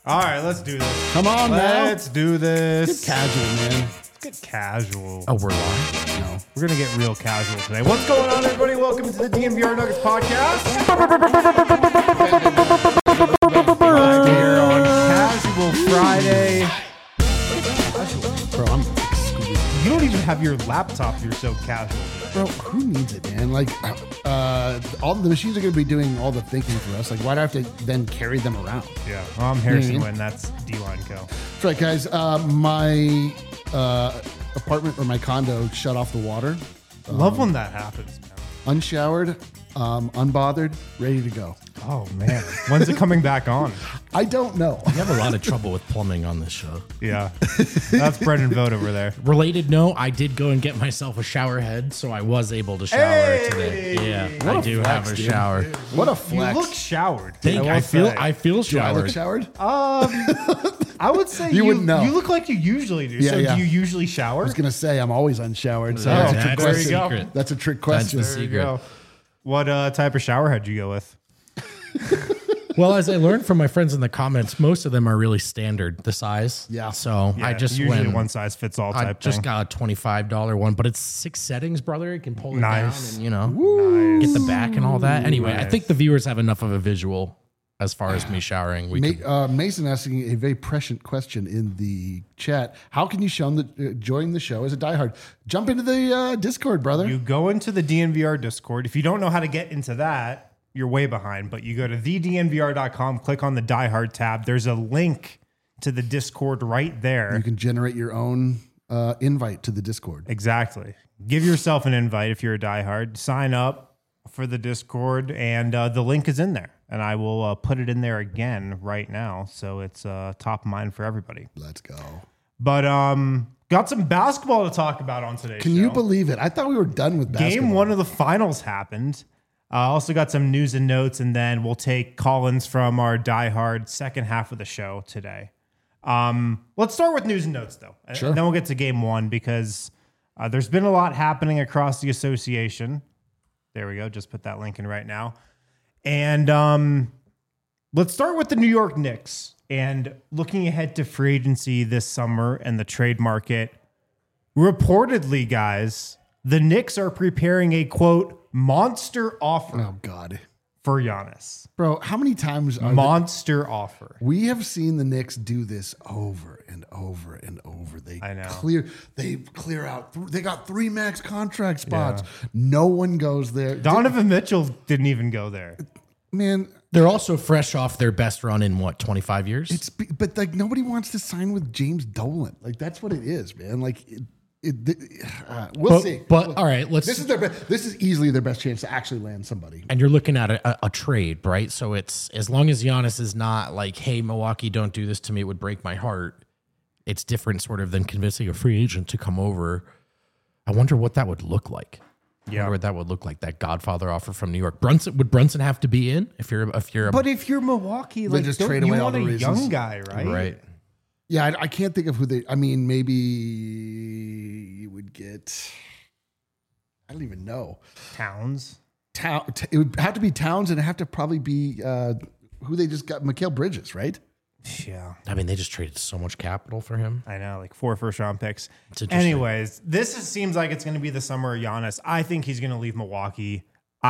All right, let's do this. Come on, Let's do this. Get casual, man. Get casual. Oh, we're live? No. We're going to get real casual today. What's going on, everybody? Welcome to the DNVR Nuggets podcast. Here on Casual Friday. Bro, I'm exquisite. You don't even have your laptop. You're so casual. Bro, who needs it, man? Like, all the machines are going to be doing all the thinking for us. Like, why do I have to then carry them around? Yeah. Well, I'm Harrison Wynn. That's D-Line Co. That's right, guys. My apartment or my condo shut off the water. Love when that happens, man. Unshowered, unbothered, ready to go. Oh, man. When's it coming back on? I don't know. We have a lot of trouble with plumbing on this show. Yeah. That's Brendan Vogt over there. Related note, I did go and get myself a shower head, so I was able to shower today. Yeah, What I a do flex, have a dude. shower. What a You flex. look showered. I feel Do I look showered. showered? I would say You wouldn't know. You look like you usually do. Yeah, so yeah. do you usually shower? I was going to say, I'm always unshowered. So Oh, that's a trick that's the question. go. secret. That's a trick That's question. the There you secret. go. What type of shower head you go with? Well, as I learned from my friends in the comments, most of them are really standard, the size. Yeah. So I just usually went. one size fits all I type just thing. got a $25 one, but it's 6 settings, brother. You can pull it Nice. down and, get the back and all that. Anyway, I Nice. think the viewers have enough of a visual as far as me showering. We can, Mason asking a very prescient question in the chat. How can you join the show as a diehard? Jump into the Discord, brother. You go into the DNVR Discord. If you don't know how to get into that, you're way behind. But you go to thednvr.com, click on the Die Hard tab. There's a link to the Discord right there. You can generate your own invite to the Discord. Exactly. Give yourself an invite if you're a diehard. Sign up for the Discord, and the link is in there. And I will put it in there again right now, so it's top of mind for everybody. Let's go. But got some basketball to talk about on today's Can show. you believe it? I thought we were done with basketball. Game one of the finals happened. Also got some news and notes, and then we'll take call-ins from our diehard second half of the show today. Let's start with news and notes, though. Sure. And then we'll get to game one because there's been a lot happening across the association. There we go. Just put that link in right now. And let's start with the New York Knicks and looking ahead to free agency this summer and the trade market. Reportedly, guys, the Knicks are preparing a, quote, monster offer Oh, God. for Giannis. Bro, how many times are Monster offer. we have seen the Knicks do this over and over and over. I know. They clear out. They got 3 max contract spots. No one goes there. Donovan Mitchell didn't even go there. Man, they're also fresh off their best run in 25 years? but like nobody wants to sign with James Dolan. Like that's what it is, man. Like we'll see. But all right, This is easily their best chance to actually land somebody. and you're looking at a trade, right? So it's as long as Giannis is not like, hey, Milwaukee, don't do this to me, it would break my heart. It's different sort of than convincing a free agent to come over. I wonder what that would look like. I wonder what that would look like, that Godfather offer from New York. Would Brunson have to be in if you're a But if you're Milwaukee, like just don't trade you away all want the a reasons. young guy, right? right? Yeah, I can't think of who they. I mean, maybe you would get. I don't even know. Towns. It would have to be Towns, and it'd have to probably be who they just got, Mikal Bridges, right? Yeah. I mean, they just traded so much capital for him. I know, like 4 first-round picks. It's interesting. Anyways, seems like it's going to be the summer of Giannis. I think he's going to leave Milwaukee.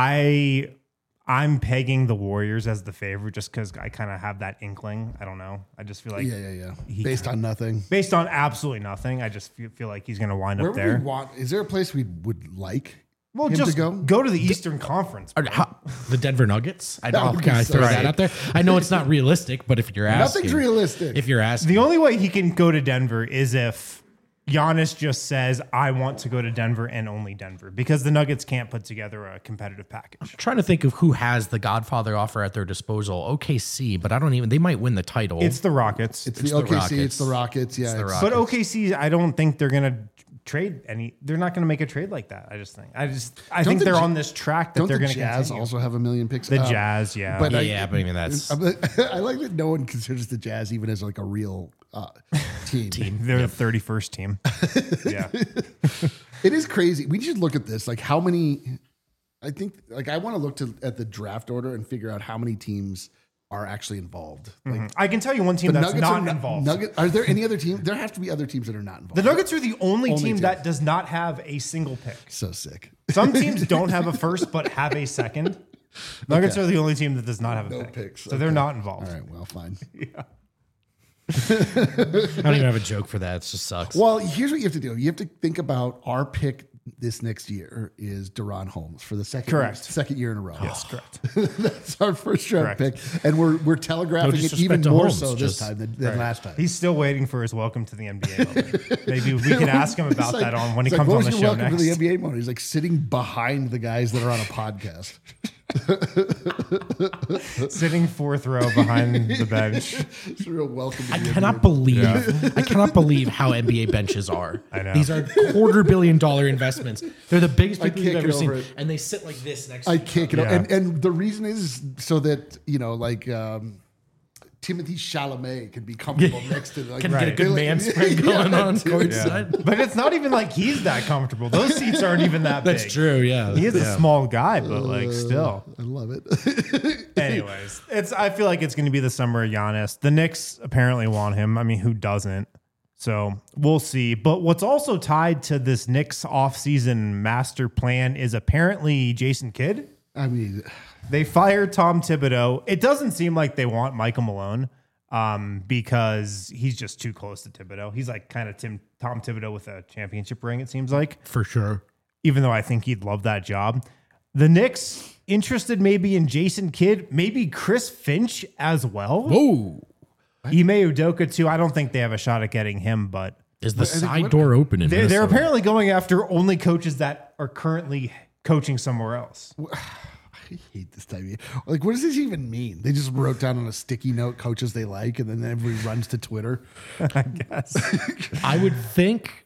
I'm pegging the Warriors as the favorite just because I kind of have that inkling. I don't know. I just feel like Yeah. Based on nothing. based on absolutely nothing, I just feel like he's going to wind Where up would there. we want? Is there a place we would like? Well, him just to go? go to the Eastern Conference. The Denver Nuggets? That would be Can I so throw sick. that out there? I know it's not realistic, but if you're asking, Nothing's realistic. If you're asking, The only way he can go to Denver is if Giannis just says, I want to go to Denver and only Denver, because the Nuggets can't put together a competitive package. trying to think of who has the Godfather offer at their disposal. OKC, but I don't even. They might win the title. It's the Rockets. it's the the OKC. Rockets. It's the Rockets. Yeah. the it's- Rockets. But OKC, I don't think they're going to trade any. They're not going to make a trade like that. I think the they're Ja- on this track that Don't they're the going to Jazz continue. also have a million picks? The Jazz, yeah. but yeah, but I mean that's I like that no one considers the Jazz even as like a real team. They're the 31st team. Yeah. It is crazy. We should look at this. Like how many? I think like I want to look at the draft order and figure out how many teams are actually involved. Like I can tell you one team the that's Nuggets not are involved. Are there any other teams? There have to be other teams that are not involved. The Nuggets are the only team team. that does not have a single pick. So sick. Some teams don't have a first but have a second. Nuggets are the only team that does not have a No pick. picks. So they're not involved. All right, well, fine. I don't even have a joke for that. It just sucks. Well, here's what you have to do. You have to think about our pick this next year is Deron Holmes for the second year in a row. Yes, correct. That's our first round Correct. pick. And we're telegraphing it disrespect even to more Holmes, so this just- time than last time. He's still waiting for his welcome to the NBA moment. Maybe we can ask him about It's like- that on when he it's comes like, on what the was your show welcome next. to the NBA moment. He's like sitting behind the guys that are on a podcast. Sitting fourth row behind the bench. It's a real welcome to I the cannot NBA. believe I cannot believe how NBA benches are. I know. These are $250 million investments. They're the biggest I people you've can't ever get seen, over it. and they sit like this next. I to can't get Yeah. and the reason is so that Timothy Chalamet can be comfortable next to Can get a Right. good man spread going on dude. courtside. But it's not even like he's that comfortable. Those seats aren't even that big. That's true. Yeah, He is a small guy, but like still. I love it. Anyways, I feel like it's going to be the summer of Giannis. The Knicks apparently want him. I mean, who doesn't? So we'll see. But what's also tied to this Knicks offseason master plan is apparently Jason Kidd. I mean, They fired Tom Thibodeau. It doesn't seem like they want Michael Malone because he's just too close to Thibodeau. He's like kind of Tom Thibodeau with a championship ring, it seems like, for sure. even though I think he'd love that job. The Knicks interested maybe in Jason Kidd, maybe Chris Finch as well. Whoa, Ime Udoka too. I don't think they have a shot at getting him, but is the think side what- door open in they're Minnesota? apparently going after only coaches that are currently coaching somewhere else. I hate this time of year. Like, what does this even mean? They just wrote down on a sticky note coaches they like, and then everybody runs to Twitter. I guess. I would think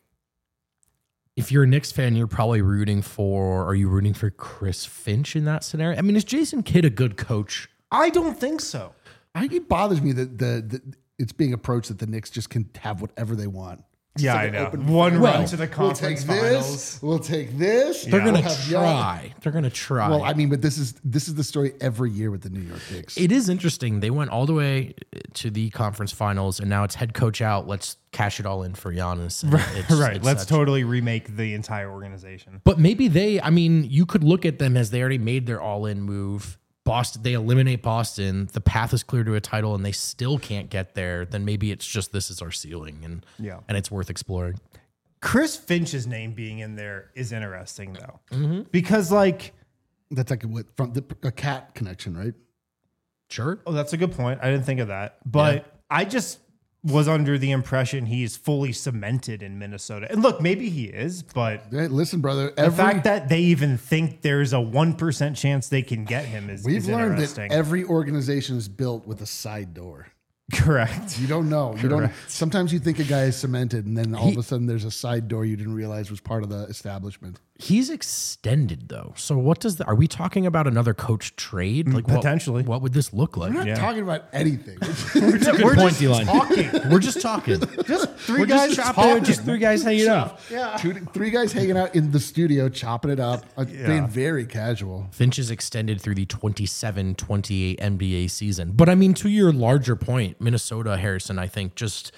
if you're a Knicks fan, you're probably rooting for. Are you rooting for Chris Finch in that scenario? I mean, is Jason Kidd a good coach? I don't think so. It bothers me that the it's being approached that the Knicks just can have whatever they want. It's Yeah, like I an know. open- One Well, run to the conference finals. We'll take this. They're We'll gonna have Young- try. They're gonna try. Well, I mean, but this is the story every year with the New York Knicks. It is interesting. They went all the way to the conference finals, and now it's head coach out. Let's cash it all in for Giannis. And Right. it's Let's such- totally remake the entire organization. But maybe you could look at them as they already made their all-in move. Boston, they eliminate Boston. The path is clear to a title, and they still can't get there. Then maybe it's just this is our ceiling, and it's worth exploring. Chris Finch's name being in there is interesting though, because like, That's like a cat connection, right? Sure. oh, that's a good point. I didn't think of that, but I just was under the impression he's fully cemented in Minnesota. And look, maybe he is, but Hey, listen, brother. the fact that they even think there's a 1% chance they can get him is we've learned that interesting. every organization is built with a side door. Correct. You don't know. You don't. Sometimes you think a guy is cemented, and then all of a sudden there's a side door you didn't realize was part of the establishment. He's extended though. So what does are we talking about another coach trade? Like potentially. What would this look like? We're not talking about anything. We're point, just D-line. talking. We're just talking. Just three We're guys just chopping. talking. Just three guys hanging out. Three guys hanging out in the studio, chopping it up, being very casual. Finch is extended through the 27-28 NBA season. But I mean, to your larger point, Minnesota, Harrison, I think just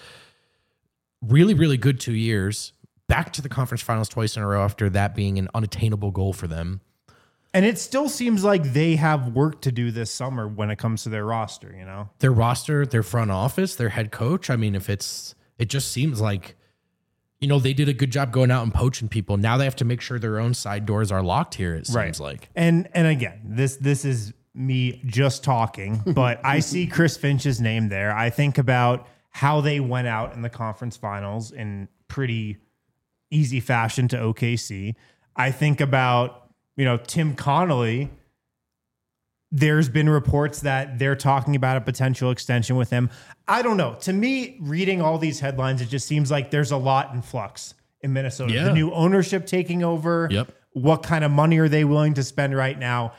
really, really good 2 years. Back to the conference finals twice in a row after that being an unattainable goal for them. And it still seems like they have work to do this summer when it comes to their roster, you know? Their roster, their front office, their head coach. I mean, it just seems like, they did a good job going out and poaching people. Now they have to make sure their own side doors are locked here, it seems like. And again, this is me just talking, but I see Chris Finch's name there. I think about how they went out in the conference finals in pretty easy fashion to OKC. I think about, Tim Connolly. There's been reports that they're talking about a potential extension with him. I don't know. To me, reading all these headlines, it just seems like there's a lot in flux in Minnesota. Yeah. The new ownership taking over. Yep. What kind of money are they willing to spend right now?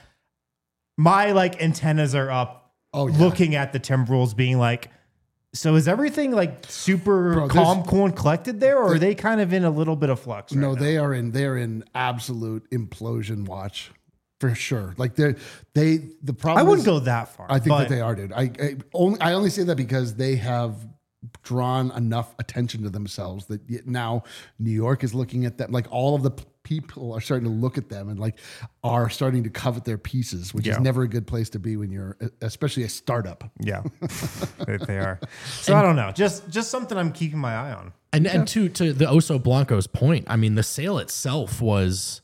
My antennas are up looking at the Timberwolves being like, so is everything super calm, cool, and collected there, or are they kind of in a little bit of flux? No, they are in absolute implosion watch. for sure. Like the problem. I wouldn't is, go that far. I think but that they are, dude. I only say that because they have drawn enough attention to themselves that now New York is looking at them. Like all of the people are starting to look at them and like are starting to covet their pieces, which is never a good place to be when you're, especially a startup. Yeah, they are. So I don't know. Just something I'm keeping my eye on. And to the Oso Blanco's point, I mean, the sale itself was,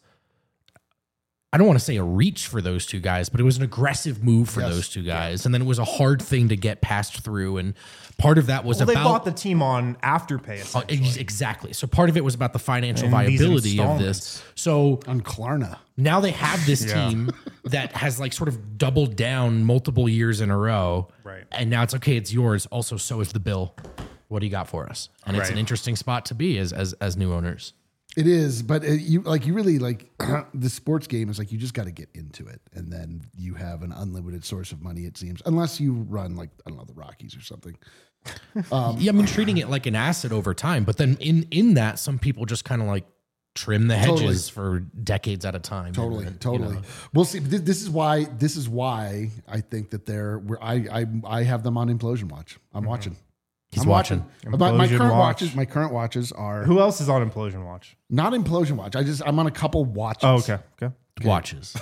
I don't want to say a reach for those two guys, but it was an aggressive move for those two guys. And then it was a hard thing to get passed through. And part of that was They bought the team on Afterpay, essentially. Exactly. So part of it was about the financial And these viability of installments. this. So On Klarna. now they have this team that has like sort of doubled down multiple years in a row. Right. And now it's okay, it's yours. Also, so is the bill. What do you got for us? And it's an interesting spot to be as new owners. It is, but you really like the sports game is like you just got to get into it, and then you have an unlimited source of money. It seems, unless you run like I don't know the Rockies or something. Yeah, I mean treating it like an asset over time, but then in that some people just kind of like trim the hedges for decades at a time. Totally. You know. We'll see. This is why I think that I have them on implosion watch. I'm watching. He's watching. My Implosion watch. current watches are Who else is on Implosion Watch? not implosion watch. I'm on a couple watches. Oh, okay. Watches.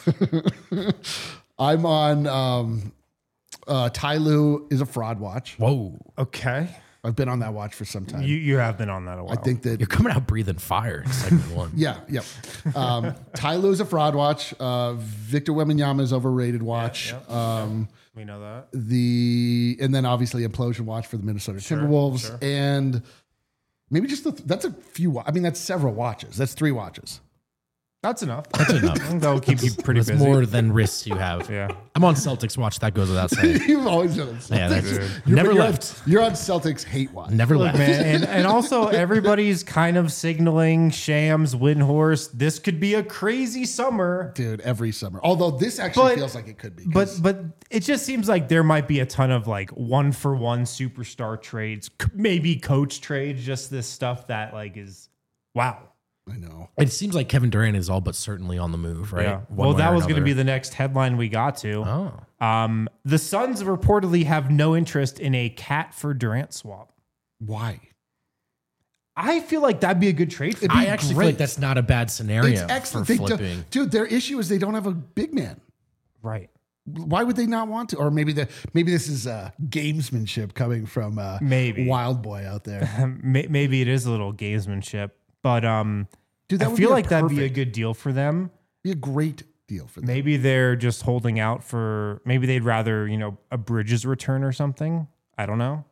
I'm on Ty Lue is a fraud watch. Whoa. Okay. I've been on that watch for some time. You have been on that a while. I think that You're coming out breathing fire in segment one. yeah. Ty Lue is a fraud watch. Victor Wembanyama is overrated watch. We know that. And then obviously implosion watch for the Minnesota Timberwolves, and maybe just that's a few. I mean, that's several watches. That's 3 watches. That's enough. That's enough. I think that will keep you pretty That's busy. more than risks you have. Yeah. I'm on Celtics watch. That goes without saying. You've always done it. Yeah, that's You're never on- left. You're on Celtics hate watch. Never Look, left. man, and also everybody's kind of signaling Shams, Windhorst. This could be a crazy summer. Dude, every summer. Although this actually But- feels like it could be. But it just seems like there might be a ton of like 1-for-1 superstar trades, maybe coach trades, just this stuff that like is wow. I know. It seems like Kevin Durant is all but certainly on the move, right? Yeah. One Well, way that or was going to another. be the next headline we got to. Oh. The Suns reportedly have no interest in a Cat for Durant swap. Why? I feel like that'd be a good trade for I actually feel like that's not a bad scenario It's excellent. for They don't- flipping. dude, their issue is they don't have a big man. right. Why would they not want to? Or maybe this is gamesmanship coming from Maybe. Wild Boy out there. Maybe it is a little gamesmanship, but Dude, that I would feel be like that'd be a perfect- good deal for them. be a great deal for them. Maybe they're just holding out for. Maybe they'd rather a Bridges return or something. I don't know.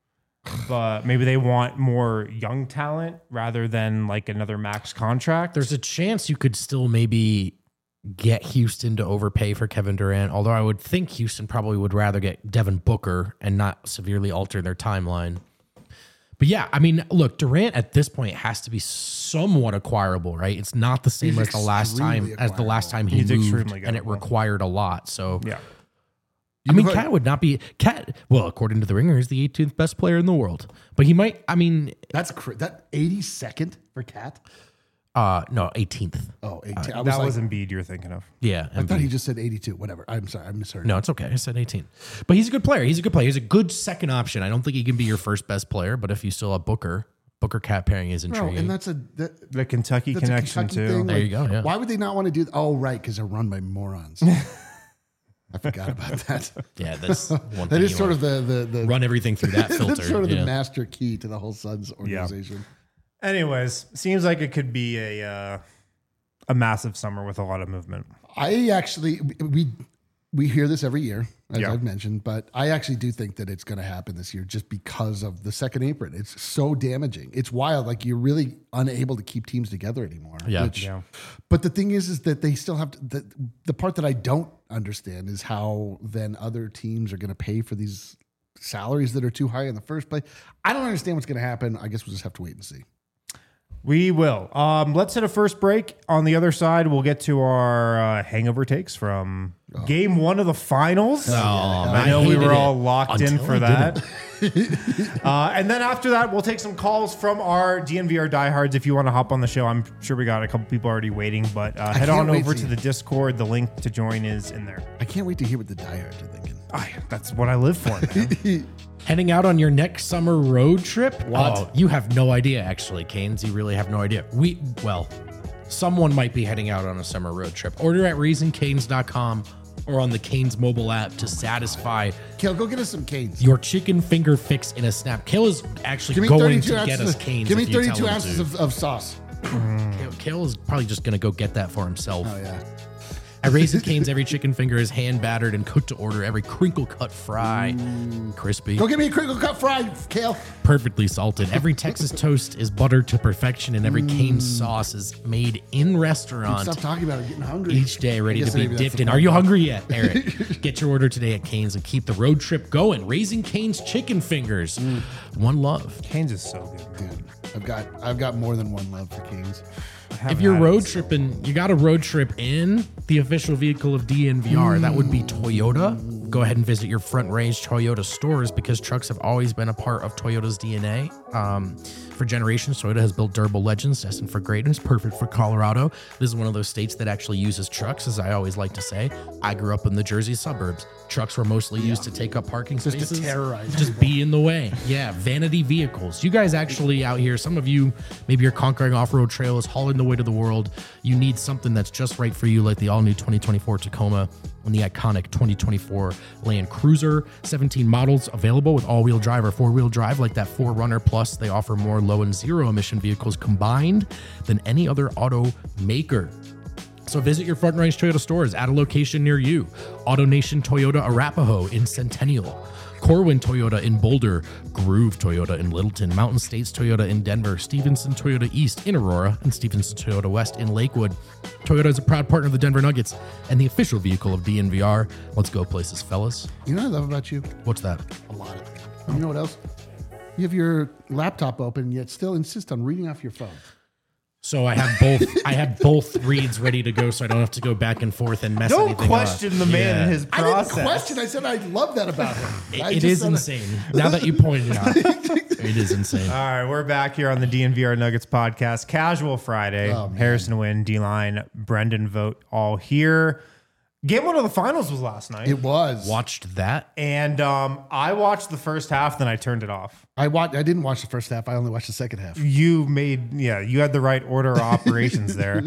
But maybe they want more young talent rather than like another max contract. There's a chance you could still maybe get Houston to overpay for Kevin Durant, although I would think Houston probably would rather get Devin Booker and not severely alter their timeline. But yeah, I mean, look, Durant at this point has to be somewhat acquirable, right? It's not the same He's as the last extremely time he He's moved, extremely and it gettable. required a lot. So yeah. I mean, know what- Cat would not be Cat. Well, according to the Ringer, is the 18th best player in the world, but he might. I mean, That's that 82nd for Cat. no, 18th. Oh, 18. I was That like, was Embiid you're thinking of. Yeah, I thought he just said 82. Whatever. I'm sorry. I misheard. no, it's okay. I said 18, but he's a good player. He's a good player. He's a good second option. I don't think he can be your first best player, but if you still have Booker Cat pairing is No, intriguing. and that's The Kentucky that's a connection Kentucky too. thing. There you go, yeah. Why would they not want to do that? Oh, right, because they're run by morons. I forgot about that. yeah, that's one thing. That is you sort want. of the Run everything through that filter. that's sort of yeah. the master key to the whole Suns organization. Anyways, seems like it could be a massive summer with a lot of movement. I actually we hear this every year, as Yeah. I've mentioned, but I actually do think that it's going to happen this year just because of the second apron. It's so damaging. It's wild. Like you're really unable to keep teams together anymore. Yeah. Yeah. But the thing is that they still have to, the part that I don't understand is how then other teams are going to pay for these salaries that are too high in the first place. I don't understand what's going to happen. I guess we'll just have to wait and see. We will. Let's hit a first break. On the other side, we'll get to our hangover takes from game one of the finals. I know we were all locked in for that. And then after that, we'll take some calls from our DNVR diehards. If you want to hop on the show, I'm sure we got a couple people already waiting, but head on over to the Discord. The link to join is in there. I can't wait to hear what the diehards are thinking. That's what I live for, man. Heading out on your next summer road trip? What? Oh, you have no idea, actually, Canes. You really have no idea. Someone might be heading out on a summer road trip. Order at RaisinCanes.com or on the Canes mobile app to satisfy Kale, go get us some Canes. your chicken finger fix in a snap. Kale is actually Give me going 32 to get us Canes. Give me if you tell 32 him ounces to. of sauce. Kale is probably just going to go get that for himself. Oh, yeah. At Raisin Canes, every chicken finger is hand battered and cooked to order. Every crinkle cut fry, crispy, Go get me a crinkle cut fry, Kale. perfectly salted. Every Texas toast is buttered to perfection, and every Cane's sauce is made in restaurant Stop talking about it. I'm getting hungry. each day, ready I to guess be maybe that's dipped the in. Are point. you hungry yet, Eric? Get your order today at Cane's and keep the road trip going. Raising Cane's chicken fingers. One love. Canes is so good, man. Dude, I've got more than one love for Canes. If you're road tripping, you got a road trip in the official vehicle of DNVR. That would be Toyota. Go ahead and visit your Front Range Toyota stores because trucks have always been a part of Toyota's DNA. For generations, Toyota has built durable legends destined for greatness, perfect for Colorado. This is one of those states that actually uses trucks, as I always like to say. I grew up in the Jersey suburbs. Trucks were mostly used to take up parking spaces. to terrorize Just be in the way. Yeah, vanity vehicles. You guys actually out here, some of you, maybe you're conquering off-road trails, hauling the way to the world. You need something that's just right for you, like the all-new 2024 Tacoma and the iconic 2024 Land Cruiser. 17 models available with all-wheel drive or four-wheel drive, like that 4Runner Plus. They offer more low and zero-emission vehicles combined than any other automaker. So visit your Front Range Toyota stores at a location near you. AutoNation Toyota Arapahoe in Centennial, Corwin Toyota in Boulder, Groove Toyota in Littleton, Mountain States Toyota in Denver, Stevenson Toyota East in Aurora, and Stevenson Toyota West in Lakewood. Toyota is a proud partner of the Denver Nuggets and the official vehicle of DNVR. Let's go places, fellas. You know what I love about you? What's that? A lot. You know what else? You have your laptop open, yet still insist on reading off your phone. So I have both. I have both reads ready to go, so I don't have to go back and forth and mess Don't anything question up. the man Yeah. and his I didn't process. question. I said I love that about him. It is insane. Now that you pointed it out, it is insane. All right, we're back here on the DNVR Nuggets podcast. Casual Friday. Oh, man. Harrison Wynn, D-Line, Brendan Vogt, all here. Game one of the finals was last night. It was. Watched that. And I watched the first half, then I turned it off. I didn't watch the first half. I only watched the second half. You had the right order of operations there.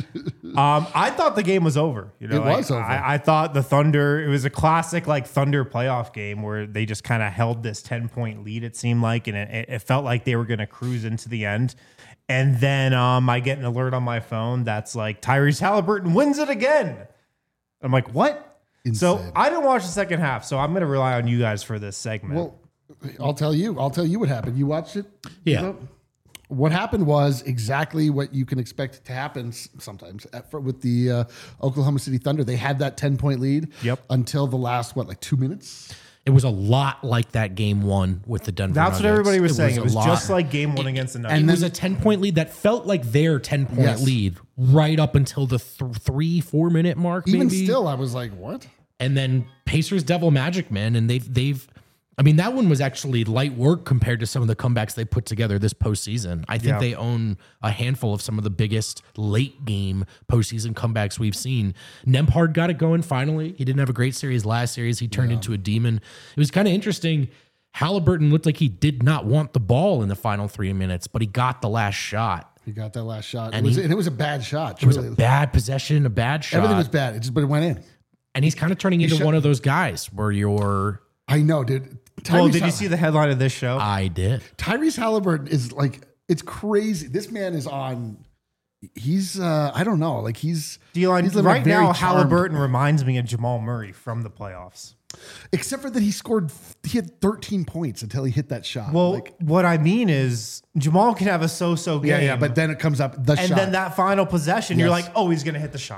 I thought the game was over. It was over. I thought the Thunder, it was a classic like Thunder playoff game where they just kind of held this 10-point lead, it seemed like, and it felt like they were going to cruise into the end. And then I get an alert on my phone that's like, Tyrese Halliburton wins it again. I'm like, what? Insane. So I didn't watch the second half, so I'm going to rely on you guys for this segment. Well, I'll tell you what happened. You watched it? Yeah. You know? What happened was exactly what you can expect to happen sometimes with the Oklahoma City Thunder. They had that 10-point lead until the last, 2 minutes? It was a lot like that game one with the Denver That's Nuggets. what everybody was saying. It a was lot. just like game one against the Nuggets. It was a 10-point lead that felt like their 10-point Yes. lead right up until the 3-4 minute mark. Even maybe. still, I was like, what? And then Pacers Devil Magic, man, and they've. I mean, that one was actually light work compared to some of the comebacks they put together this postseason. I think they own a handful of some of the biggest late game postseason comebacks we've seen. Nembhard got it going finally. He didn't have a great series last series. He turned into a demon. It was kind of interesting. Halliburton looked like he did not want the ball in the final 3 minutes, but he got the last shot. He got that last shot. And It was a bad shot. It was a bad possession, a bad shot. Everything was bad. But it went in. And he's kind of turning into one of those guys where you're. I know, dude. Well, did you see the headline of this show? I did. Tyrese Halliburton is like, it's crazy. This man is on. He's I don't know, like he's D-line, he's living a right very now, charmed- Halliburton reminds me of Jamal Murray from the playoffs. except for that he had 13 points until he hit that shot. Well, Like, what I mean is Jamal can have a so-so game. yeah, but then it comes up the and shot. then that final possession, you're Yes. like, oh, he's going to hit the shot.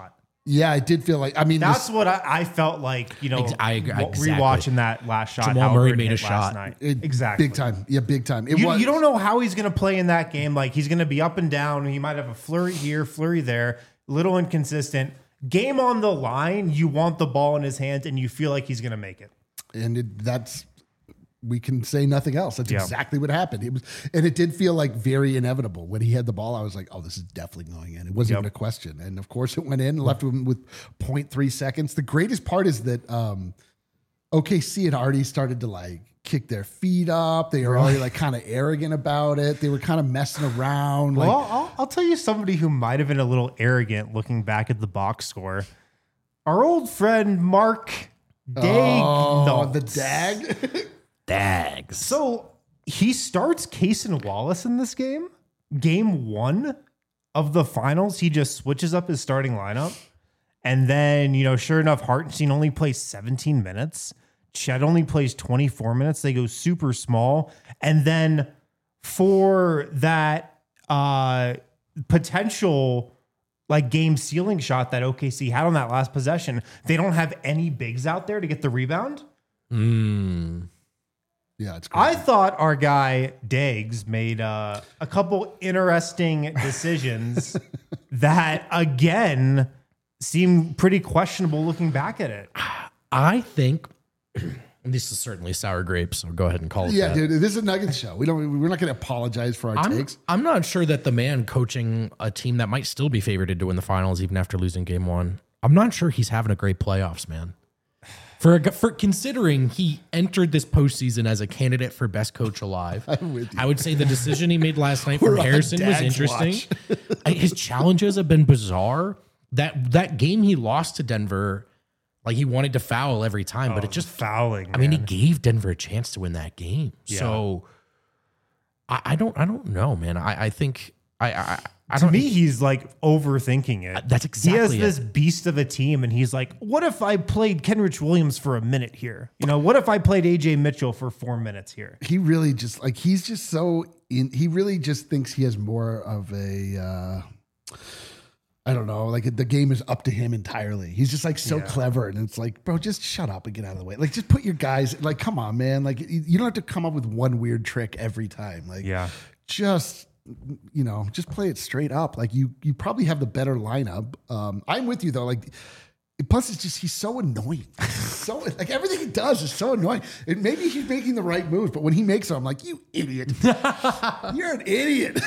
Yeah, I did feel like. I mean, That's what I felt like. I agree, exactly. Rewatching that last shot. Jamal Murray Halliburton made a hit last shot. night. Exactly, big time. Yeah, big time. You don't know how he's going to play in that game. Like he's going to be up and down. He might have a flurry here, flurry there. Little inconsistent. Game on the line. You want the ball in his hands, and you feel like he's going to make it. And we can say nothing else. That's exactly what happened. It did feel like very inevitable. When he had the ball, I was like, oh, this is definitely going in. It wasn't even a question. And of course it went in and left him with 0.3 seconds. The greatest part is that OKC had already started to like kick their feet up. They were already like kind of arrogant about it. They were kind of messing around. Well, I'll tell you somebody who might have been a little arrogant looking back at the box score. Our old friend Mark Dag. The Dag. Dags. So he starts Cason Wallace in this game. Game 1 of the finals, he just switches up his starting lineup. And then, sure enough, Hartenstein only plays 17 minutes. Chet only plays 24 minutes. They go super small. And then for that potential like game sealing shot that OKC had on that last possession, they don't have any bigs out there to get the rebound. Yeah, it's crazy. I thought our guy Dags made a couple interesting decisions that, again, seem pretty questionable looking back at it. I think this is certainly sour grapes, so go ahead and call it that. Dude, this is a Nuggets show. We're not going to apologize for our takes. I'm not sure that the man coaching a team that might still be favored to win the finals even after losing game 1, I'm not sure he's having a great playoffs, man. For considering he entered this postseason as a candidate for best coach alive, I would say the decision he made last night from Harrison was interesting. His challenges have been bizarre. That game he lost to Denver, like he wanted to foul every time, but it just fouling. I mean, he gave Denver a chance to win that game. Yeah. So I don't know, man. I think to me, he's like overthinking it. That's exactly He has this beast of a team, and he's like, what if I played Kenrich Williams for a minute here? What if I played AJ Mitchell for 4 minutes here? He really just like, he's just so he really just thinks he has more of a, I don't know, like the game is up to him entirely. He's just like so clever. And it's like, bro, just shut up and get out of the way. Like, just put your guys, like, come on, man. Like, you don't have to come up with one weird trick every time. Like, just play it straight up. Like you probably have the better lineup. I'm with you though. Like, plus it's just, he's so annoying. So like everything he does is so annoying. And maybe he's making the right moves, but when he makes them, I'm like, you idiot. You're an idiot.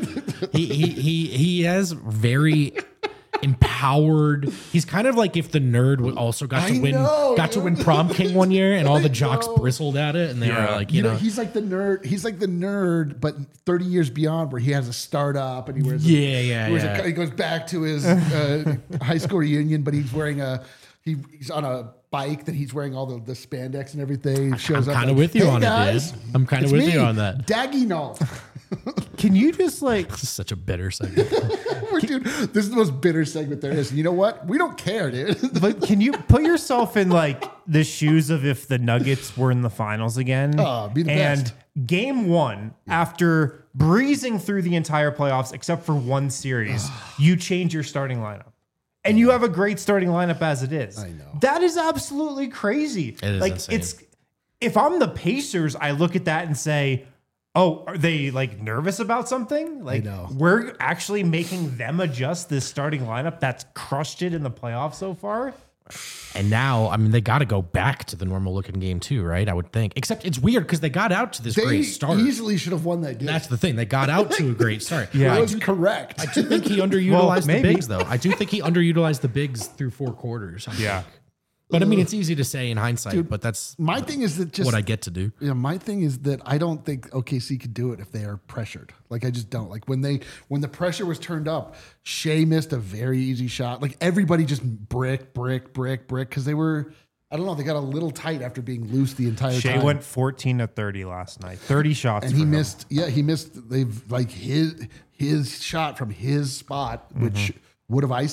he has very empowered. He's kind of like if the nerd also got to win prom king one year, and all the jocks bristled at it, and they were like, you know, he's like the nerd. He's like the nerd, but 30 years beyond, where he has a startup and he wears. He goes back to his high school reunion, but he's wearing he's on a bike that he's wearing all the spandex and everything. Shows I'm kind of with you on it, dude. I'm kind of with you on that. Daginol. Can you just like? This is such a bitter segment. Dude, this is the most bitter segment there is. You know what? We don't care, dude. But can you put yourself in like the shoes of if the Nuggets were in the finals again? Be the best. Game 1, after breezing through the entire playoffs except for one series, you change your starting lineup. And you have a great starting lineup as it is. I know. That is absolutely crazy. It is like insane. If I'm the Pacers, I look at that and say, oh, are they like nervous about something? Like, we're actually making them adjust this starting lineup that's crushed it in the playoffs so far. And now, I mean, they got to go back to the normal looking game too, right? I would think. Except it's weird because they got out to this great start. They easily should have won that game. That's the thing. They got out to a great start. That was correct. I do think he underutilized the bigs, though. I do think he underutilized the bigs through 4 quarters. I think. But I mean, it's easy to say in hindsight, but that's my thing is that just what I get to do. Yeah, my thing is that I don't think OKC could do it if they are pressured. Like, I just don't. Like, when the pressure was turned up, Shea missed a very easy shot. Like, everybody just brick, because they were, I don't know, they got a little tight after being loose the entire time. Shea went 14 of 30 last night. 30 shots. And he missed, he missed, they've like his shot from his spot, which would have iced it.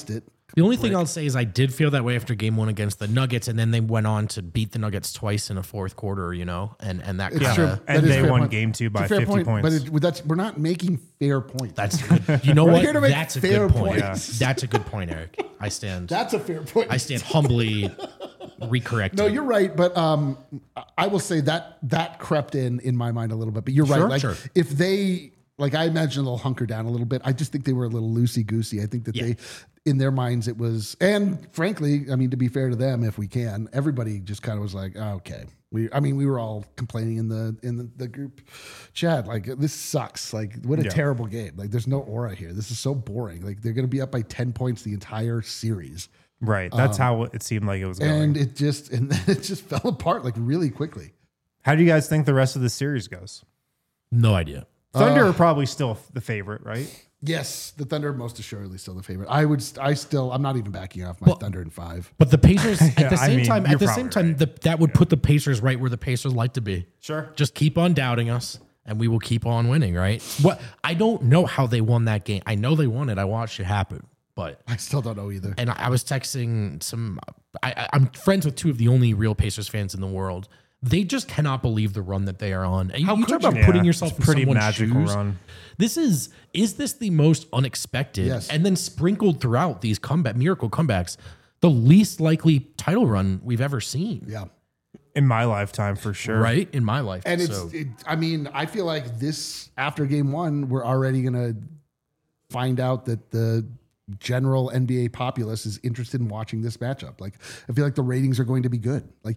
The only thing I'll say is I did feel that way after game 1 against the Nuggets, and then they went on to beat the Nuggets twice in a fourth quarter, and that It's kind true. of And That is they fair won point. game 2 by It's a fair 50 point, points. but we're not making fair points. that's good. You know We're what? here to make That's a fair good point. points. That's a good point, Eric. I stand That's a fair point. humbly recorrected. No, you're right, but I will say that crept in my mind a little bit. But you're Sure, right. Like sure. if they I imagine they'll hunker down a little bit. I just think they were a little loosey goosey. I think that they, in their minds, it was, and frankly, I mean, to be fair to them, if we can, everybody just kind of was like, oh, okay. We were all complaining in the group chat, like, this sucks. Like, what a terrible game. Like, there's no aura here. This is so boring. Like, they're going to be up by 10 points the entire series. Right. That's how it seemed like it was going. And it just fell apart like really quickly. How do you guys think the rest of the series goes? No idea. Thunder are probably still the favorite, right? Yes, the Thunder most assuredly still the favorite. I'm not even backing off my Thunder in 5. But the Pacers at the same mean, time, you're probably right. that would put the Pacers right where the Pacers like to be. Sure. Just keep on doubting us, and we will keep on winning. Right? What I don't know how they won that game. I know they won it. I watched it happen, but I still don't know either. and I was texting some. I'm friends with 2 of the only real Pacers fans in the world. They just cannot believe the run that they are on. And you talk about putting yourself in pretty someone's magical shoes. run. Is this the most unexpected Yes. and then sprinkled throughout these miracle comebacks, the least likely title run we've ever seen? Yeah. In my lifetime, for sure. Right? In my life. And So, I feel like this, after game 1, we're already going to find out that the general NBA populace is interested in watching this matchup. Like, I feel like the ratings are going to be good. Like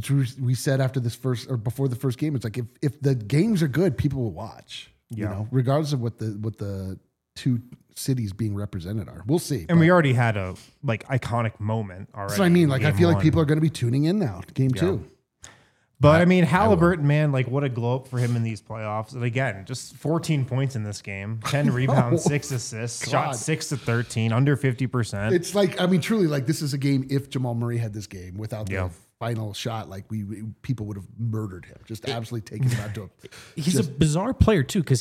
we said after this first or before the first game, it's like if the games are good, people will watch. You know, regardless of what the 2 cities being represented are. We'll see. And we already had a iconic moment already. That's what I mean. Like, I feel like one. people are going to be tuning in now. Game 2. But I mean, Halliburton, man, like what a glow up for him in these playoffs. And again, just 14 points in this game, 10 rebounds, 6 assists, shot 6 to 13, under 50%. It's like, I mean, truly, like this is a game. If Jamal Murray had this game without the final shot, like people would have murdered him, just absolutely taken him out to. he's a bizarre player too, because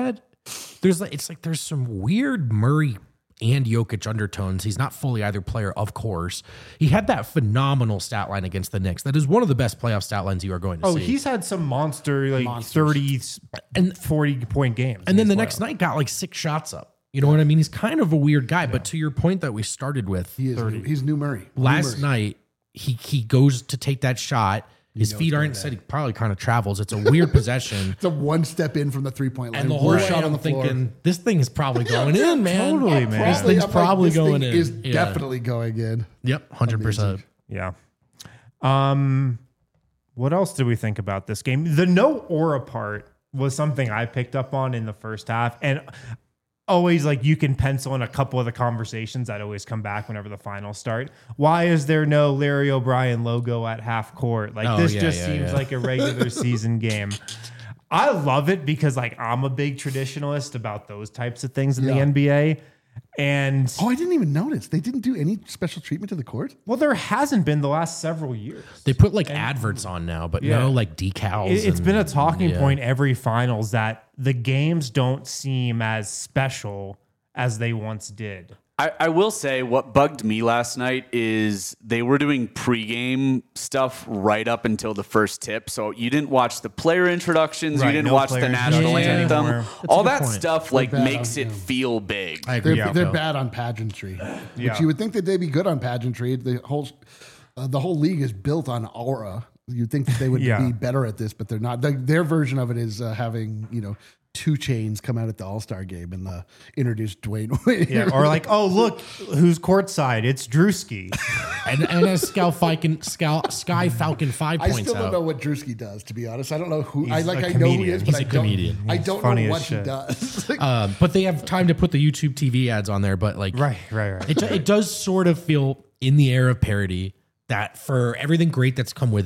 there's some weird Murray and Jokic undertones. He's not fully either player, of course. He had that phenomenal stat line against the Knicks. That is one of the best playoff stat lines you are going to see. He's had some monster, like 30 and 40 point games. And then the next night got like 6 shots up. You know what I mean? He's kind of a weird guy. But to your point that we started with, He's new Murray. last night he goes to take that shot. His feet aren't set. He probably kind of travels. It's a weird possession. It's a one step in from the 3-point line. And the whole Worst way shot on I'm the floor. thinking, this thing is probably going in, man. Totally, man. This thing's I'm like, probably this going thing in. Is Yeah. definitely going in. Yep, 100%. Yeah. What else did we think about this game? The no aura part was something I picked up on in the first half. And always, like, you can pencil in a couple of the conversations that always come back whenever the finals start. Why is there no Larry O'Brien logo at half court? Like, this just seems like a regular season game. I love it because, like, I'm a big traditionalist about those types of things in the NBA. And I didn't even notice. They didn't do any special treatment to the court. well, there hasn't been the last several years. They put like adverts on now, but no like decals. It's been a talking point every finals that the games don't seem as special as they once did. I will say what bugged me last night is they were doing pregame stuff right up until the first tip. So you didn't watch the player introductions. Right, You didn't no watch player the national introductions anthem. anymore. All good that point. stuff They're bad makes on- it feel big. I agree. They're bad on pageantry. Yeah. Which you would think that they'd be good on pageantry. The whole league is built on aura. You'd think that they would be better at this, but they're not. Their version of it is having 2 Chainz come out at the All-Star game and introduce Dwayne Wade. Yeah, or like, oh, look, who's courtside? It's Drewski. and as Sky Falcon 5 I points still don't know out. what Drewski does, to be honest. I don't know who. I He's a know who he comedian. is, but He's a comedian. I don't funny know as what he shit. does. But they have time to put the YouTube TV ads on there. But like, Right. it does sort of feel in the air of parody that for everything great that's come with it,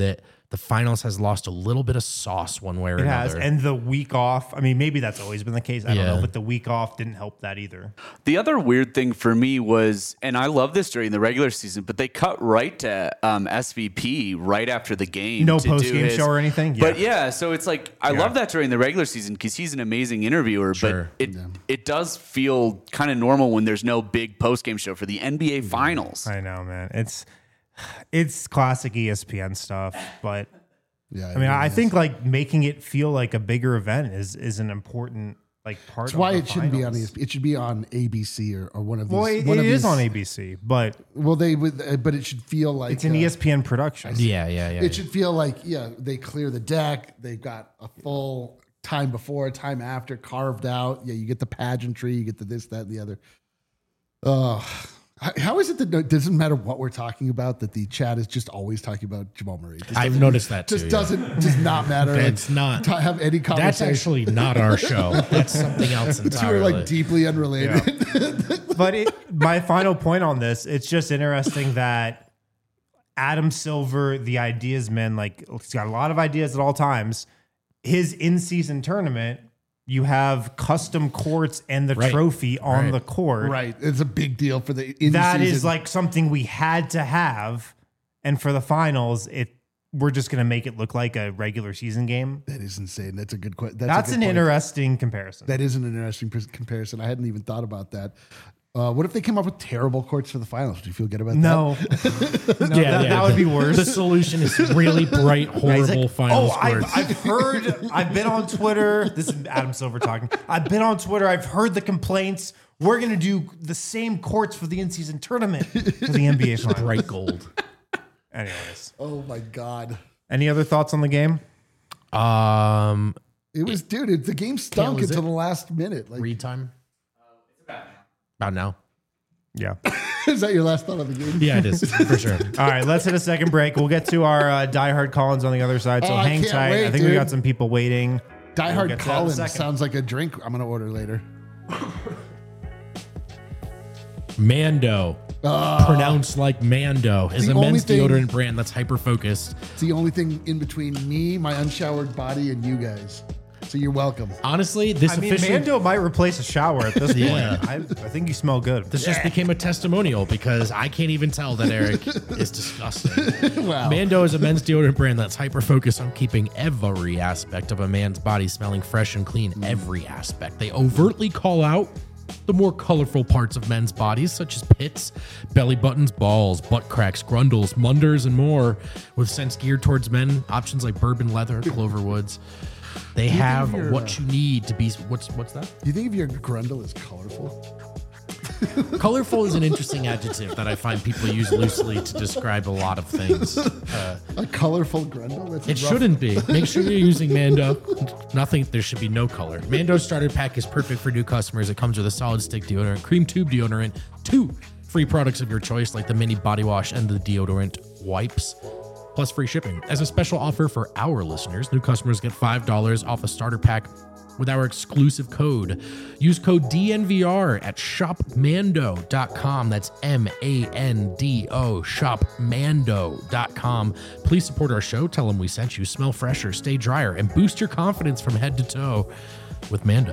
the finals has lost a little bit of sauce one way or It another. has. And the week off, I mean, maybe that's always been the case. I don't Yeah. know. But the week off didn't help that either. The other weird thing for me was, and I love this during the regular season, but they cut right to SVP right after the game. No to do post-game his- show or anything? But Yeah. yeah, so it's like, I love that during the regular season because he's an amazing interviewer, Sure. but it does feel kind of normal when there's no big post-game show for the NBA Finals. I know, man. It's classic ESPN stuff. But Yeah, I mean, I think like making it feel like a bigger event is an important like part that's of why the it shouldn't be on finals. ESPN. It should be on ABC or one of these. Well, it one of is these- on ABC, but Well, they would, but it should feel like it's an ESPN production. yeah. It should feel like they clear the deck. They've got a full time before, time after carved out. Yeah, you get the pageantry, you get the this, that, and the other. How is it that it doesn't matter what we're talking about, that the chat is just always talking about Jamal Murray? Just I've doesn't- noticed that too. Just yeah. does not matter. It's not. have any conversation. That's actually not our show. That's something else the two are entirely. like deeply unrelated. But my final point on this, it's just interesting that Adam Silver, the ideas man, like he's got a lot of ideas at all times. His in-season tournament, you have custom courts and the Right. trophy on Right. the court. Right. It's a big deal for the That in-season. is like something we had to have. And for the finals, we're just going to make it look like a regular season game. That is insane. That's a good question. That's an interesting comparison. That is an interesting comparison. I hadn't even thought about that. What if they came up with terrible courts for the finals? Do you feel good about no, that would be worse. The solution is really bright, horrible final scores. I've been on Twitter. This is Adam Silver talking. I've been on Twitter. I've heard the complaints. We're going to do the same courts for the in-season tournament for the NBA finals. Bright gold. Anyways, Oh my God. any other thoughts on the game? It was, dude, the game stunk is until it? the last minute. Like, Read time? About now. Yeah. is that your last thought of the game? Yeah, it is, for sure. All right, let's hit a second break. We'll get to our diehard Collins on the other side. So Oh, I hang can't tight. wait, I think we dude. got some people waiting. Die We'll Hard get to that in a Collins second. sounds like a drink I'm going to order later. Mando. Pronounced like Mando is The a only men's thing- deodorant brand that's hyper focused. It's the only thing in between me, my unshowered body, and you guys. So you're welcome. Honestly, this I mean, officially Mando might replace a shower at this Yeah. point. I think you smell good. this just became a testimonial because I can't even tell that Eric is disgusting. Wow. Mando is a men's deodorant brand that's hyper focused on keeping every aspect of a man's body smelling fresh and clean. Every aspect. They overtly call out the more colorful parts of men's bodies, such as pits, belly buttons, balls, butt cracks, grundles, munders, and more, with scents geared towards men. Options like bourbon leather, clover woods. They have you're, what you need to be. What's that? Do you think if your grundle is colorful? Colorful is an interesting adjective that I find people use loosely to describe a lot of things. A colorful grundle? That's It rough. shouldn't be. Make sure you're using Mando. Nothing. There should be no color. Mando starter pack is perfect for new customers. It comes with a solid stick deodorant, cream tube deodorant, 2 free products of your choice like the mini body wash and the deodorant wipes, plus free shipping. As a special offer for our listeners, new customers get $5 off a starter pack with our exclusive code. Use code DNVR at shopmando.com. That's MANDO, shopmando.com. Please support our show. Tell them we sent you. Smell fresher, stay drier, and boost your confidence from head to toe with Mando.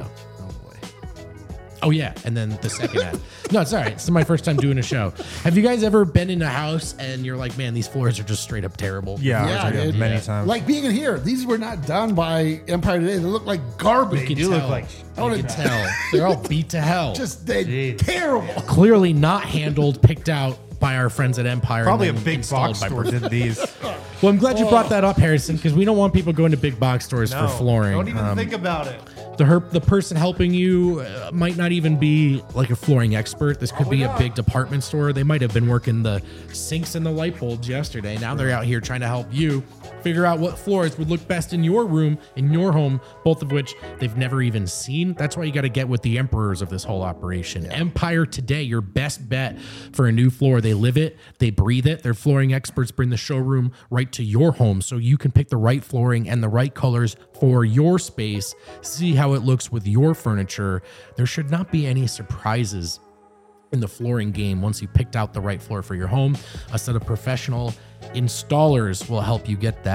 Oh, yeah. And then the second ad. No, it's all right. It's my first time doing a show. Have you guys ever been in a house and you're like, man, these floors are just straight up terrible? Yeah, Yeah, I did dude. many times. Like being in here, these were not done by Empire Today. They look like garbage. You do can look tell. like You can tell. They're all beat to hell. Just they Jeez. terrible. Clearly not handled, picked out by our friends at Empire. Probably a and then big installed box by store Burton. did these. Well, I'm glad you brought that up, Harrison, because we don't want people going to big box stores No, for flooring. Don't even think about it. The person helping you might not even be like a flooring expert. This could be a big department store. They might have been working the sinks and the light bulbs yesterday. Now they're out here trying to help you figure out what floors would look best in your room, in your home, both of which they've never even seen. That's why you got to get with the emperors of this whole operation. Empire Today, your best bet for a new floor. They live it, they breathe it. Their flooring experts bring the showroom right to your home so you can pick the right flooring and the right colors for your space. See how it looks with your furniture. There should not be any surprises in the flooring game once you picked out the right floor for your home. A set of professional installers will help you get that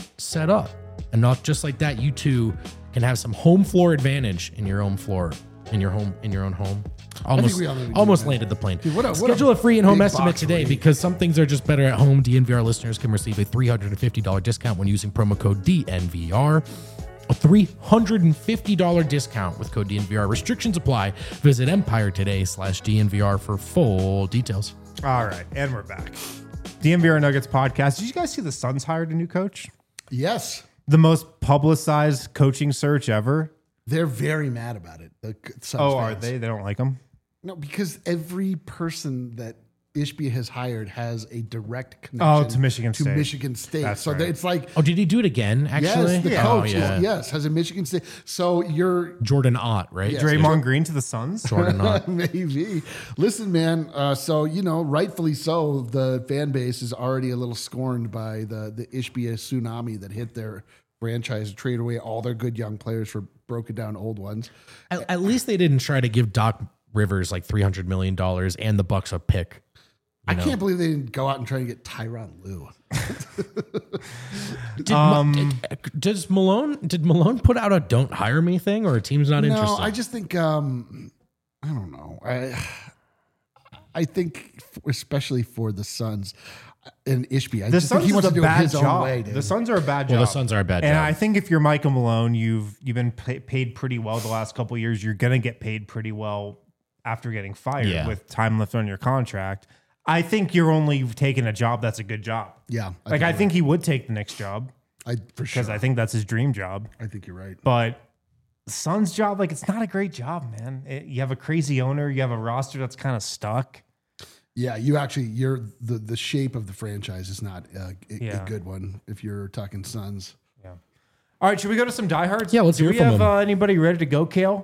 set up. And not just like that, you too can have some home floor advantage in your own floor, in your own home. Almost landed the plane. Dude, Schedule a free and home big estimate box today rate. because some things are just better at home. DNVR listeners can receive a $350 discount when using promo code DNVR. A $350 discount with code DNVR. Restrictions apply. Visit EmpireToday.com/DNVR for full details. All right, and we're back. DNVR Nuggets podcast. Did you guys see the Suns hired a new coach? Yes. The most publicized coaching search ever. They're very mad about it. The Suns Oh, are fans. they? They don't like him? No, because every person that Ishbia has hired has a direct connection to Michigan State. Michigan State. That's so right. It's like, Oh, did he do it again, actually? yes, the Oh, coach has a Michigan State. So you're Jordan Ott, right? Yes. Draymond Green to the Suns? Jordan Ott. maybe. Listen, man. So rightfully so, the fan base is already a little scorned by the Ishbia tsunami that hit their franchise and trade away all their good young players for broken down old ones. At least they didn't try to give Doc Rivers like $300 million and the Bucks a pick. I can't believe they didn't go out and try to get Tyronn Lue. Did Malone put out a "don't hire me" thing, or a team's not No, interested? I just think I don't know. I think especially for the Suns and Ishbia, I The just think Suns he wants is to a do it bad his own job. way, dude. The Suns are a bad Well, job. the Suns are a bad And job. I think if you're Michael Malone, you've been paid pretty well the last couple of years. You're going to get paid pretty well after getting fired with time left on your contract. I think you're only taking a job that's a good job. Yeah, I think he would take the next job for sure. because I think that's his dream job. I think you're right. But the Suns' job, it's not a great job, man. You have a crazy owner. You have a roster that's kind of stuck. Yeah, you're the shape of the franchise is not a good one if you're talking Suns. Yeah. All right, should we go to some diehards? Yeah, let's Do hear we from have them. Anybody ready to go, Kale?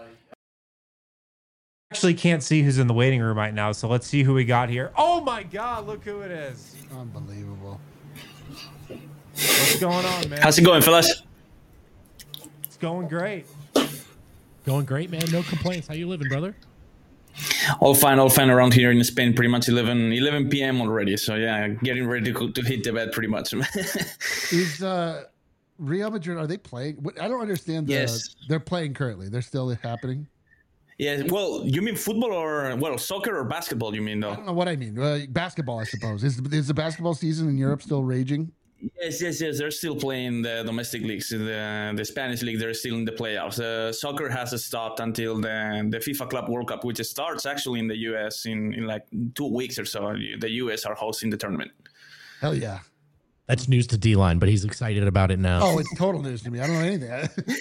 Actually can't see who's in the waiting room right now, so let's see who we got here. Oh my God, look who it is. Unbelievable. What's going on, man? How's it going, fellas? It's going great. Going great, man. No complaints. How you living, brother? All fine around here in Spain. Pretty much 11 p.m. already. So yeah, getting ready to hit the bed pretty much. Is Real Madrid, are they playing? I don't understand. Yes. They're playing currently. They're still happening. Yeah. Well, you mean football or soccer or basketball? You mean I though? don't know what I mean. Basketball, I suppose. Is the basketball season in Europe still raging? Yes. They're still playing the domestic leagues. The Spanish league, they're still in the playoffs. Soccer has stopped until the FIFA Club World Cup, which starts actually in the U.S. in like 2 weeks or so. The U.S. are hosting the tournament. Hell yeah. That's news to D-Line, but he's excited about it now. Oh, it's total news to me. I don't know anything.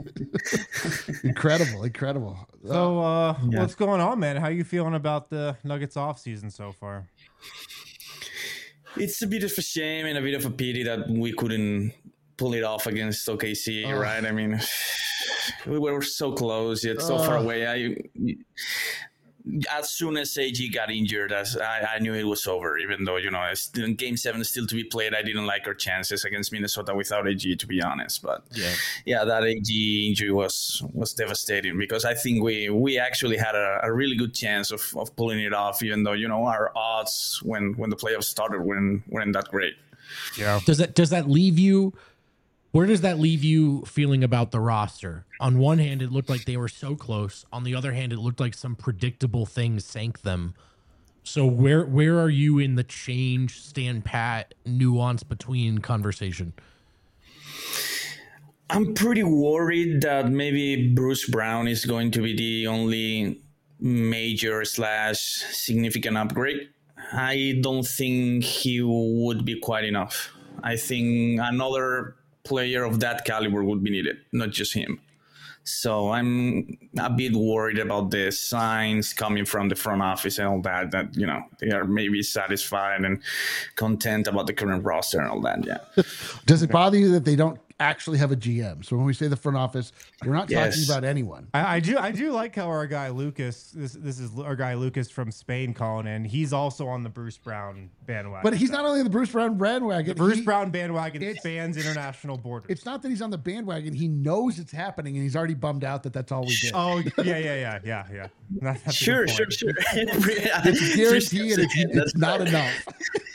Incredible. So, what's going on, man? How you feeling about the Nuggets offseason so far? It's a bit of a shame and a bit of a pity that we couldn't pull it off against OKC, right? I mean, we were so close yet so far away. As soon as AG got injured, I knew it was over. Even though Game 7 is still to be played, I didn't like our chances against Minnesota without AG, to be honest. But yeah, that AG injury was devastating because I think we actually had a really good chance of pulling it off. Even though our odds when the playoffs started weren't that great. Yeah. Does that leave you? Where does that leave you feeling about the roster? On one hand, it looked like they were so close. On the other hand, it looked like some predictable things sank them. So where are you in the change, stand pat, nuance between conversation? I'm pretty worried that maybe Bruce Brown is going to be the only major / significant upgrade. I don't think he would be quite enough. I think another player of that caliber would be needed, not just him. So I'm a bit worried about the signs coming from the front office and all that they are maybe satisfied and content about the current roster and all that. Yeah. Does it bother you that they don't actually have a GM? So when we say the front office, we're not talking about anyone. I do like how our guy Lucas, this is our guy Lucas from Spain calling in. He's also on the Bruce Brown bandwagon. But he's not only the Bruce Brown bandwagon. Bruce Brown bandwagon spans international borders. It's not that he's on the bandwagon. He knows it's happening, and he's already bummed out that that's all we did. Oh, yeah. That's a Sure. good point. It's a guarantee, and it's not enough.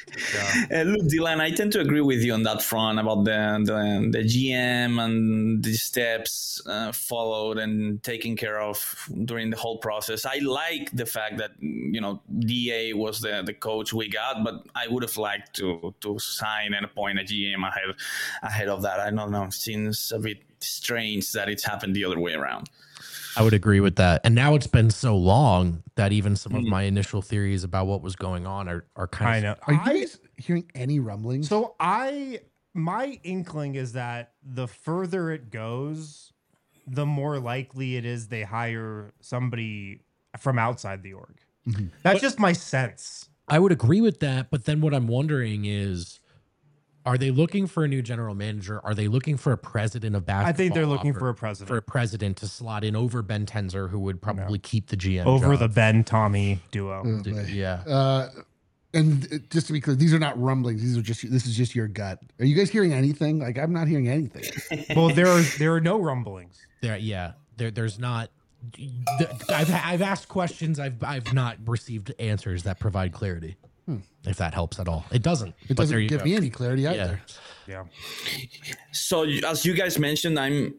Look, Dylan, I tend to agree with you on that front about the GM and the steps followed and taken care of during the whole process. I like the fact that DA was the coach we got, but I would have liked to sign and appoint a GM ahead of that. I don't know. It seems a bit strange that it's happened the other way around. I would agree with that. And now it's been so long that even some of my initial theories about what was going on are kind of. Are you guys hearing any rumblings? So my inkling is that the further it goes, the more likely it is they hire somebody from outside the org. Mm-hmm. That's just my sense. I would agree with that. But then what I'm wondering is, are they looking for a new general manager? Are they looking for a president of basketball? I think they're looking for a president. For a president to slot in over Ben Tenzer, who would probably keep the GM over job. the Ben-Tommy duo. Yeah. And just to be clear, these are not rumblings. This is just your gut. Are you guys hearing anything? Like, I'm not hearing anything. Well, there are no rumblings. There's not. I've asked questions. I've not received answers that provide clarity. If that helps at all. It doesn't. It doesn't give me any clarity either. Yeah. So as you guys mentioned,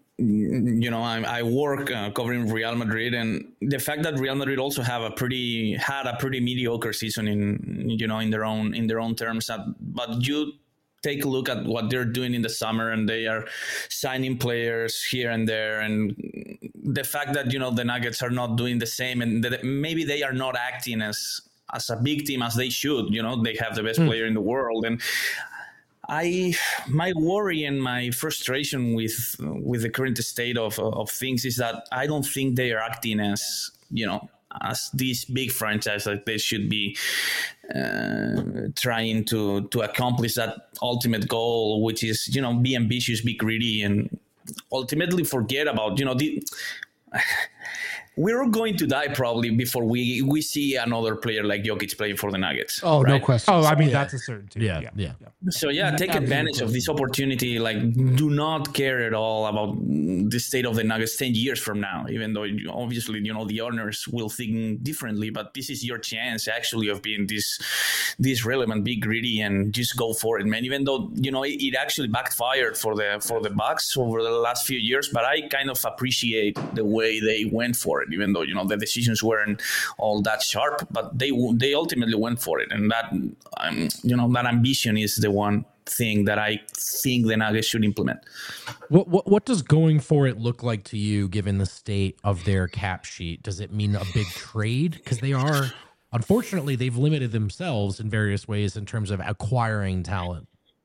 I work covering Real Madrid, and the fact that Real Madrid also had a pretty mediocre season in their own terms. But you take a look at what they're doing in the summer, and they are signing players here and there, and the fact that the Nuggets are not doing the same, and that maybe they are not acting as a big team as they should. They have the best player in the world, and my worry and my frustration with the current state of things is that I don't think they are acting as this big franchise that they should be trying to accomplish that ultimate goal, which is be ambitious, be greedy, and ultimately forget about we're going to die probably before we see another player like Jokic playing for the Nuggets. Oh, right? No question. Oh, I mean, that's a certainty. Yeah. So take advantage of this opportunity. Like, do not care at all about the state of the Nuggets 10 years from now, even though obviously, the owners will think differently, but this is your chance actually of being this relevant, be greedy, and just go for it, man. Even though, it actually backfired for the Bucks over the last few years, but I kind of appreciate the way they went for it, even though, the decisions weren't all that sharp, but they ultimately went for it. And that, that ambition is the one thing that I think the Nuggets should implement. What does going for it look like to you, given the state of their cap sheet? Does it mean a big trade? Because unfortunately, they've limited themselves in various ways in terms of acquiring talent.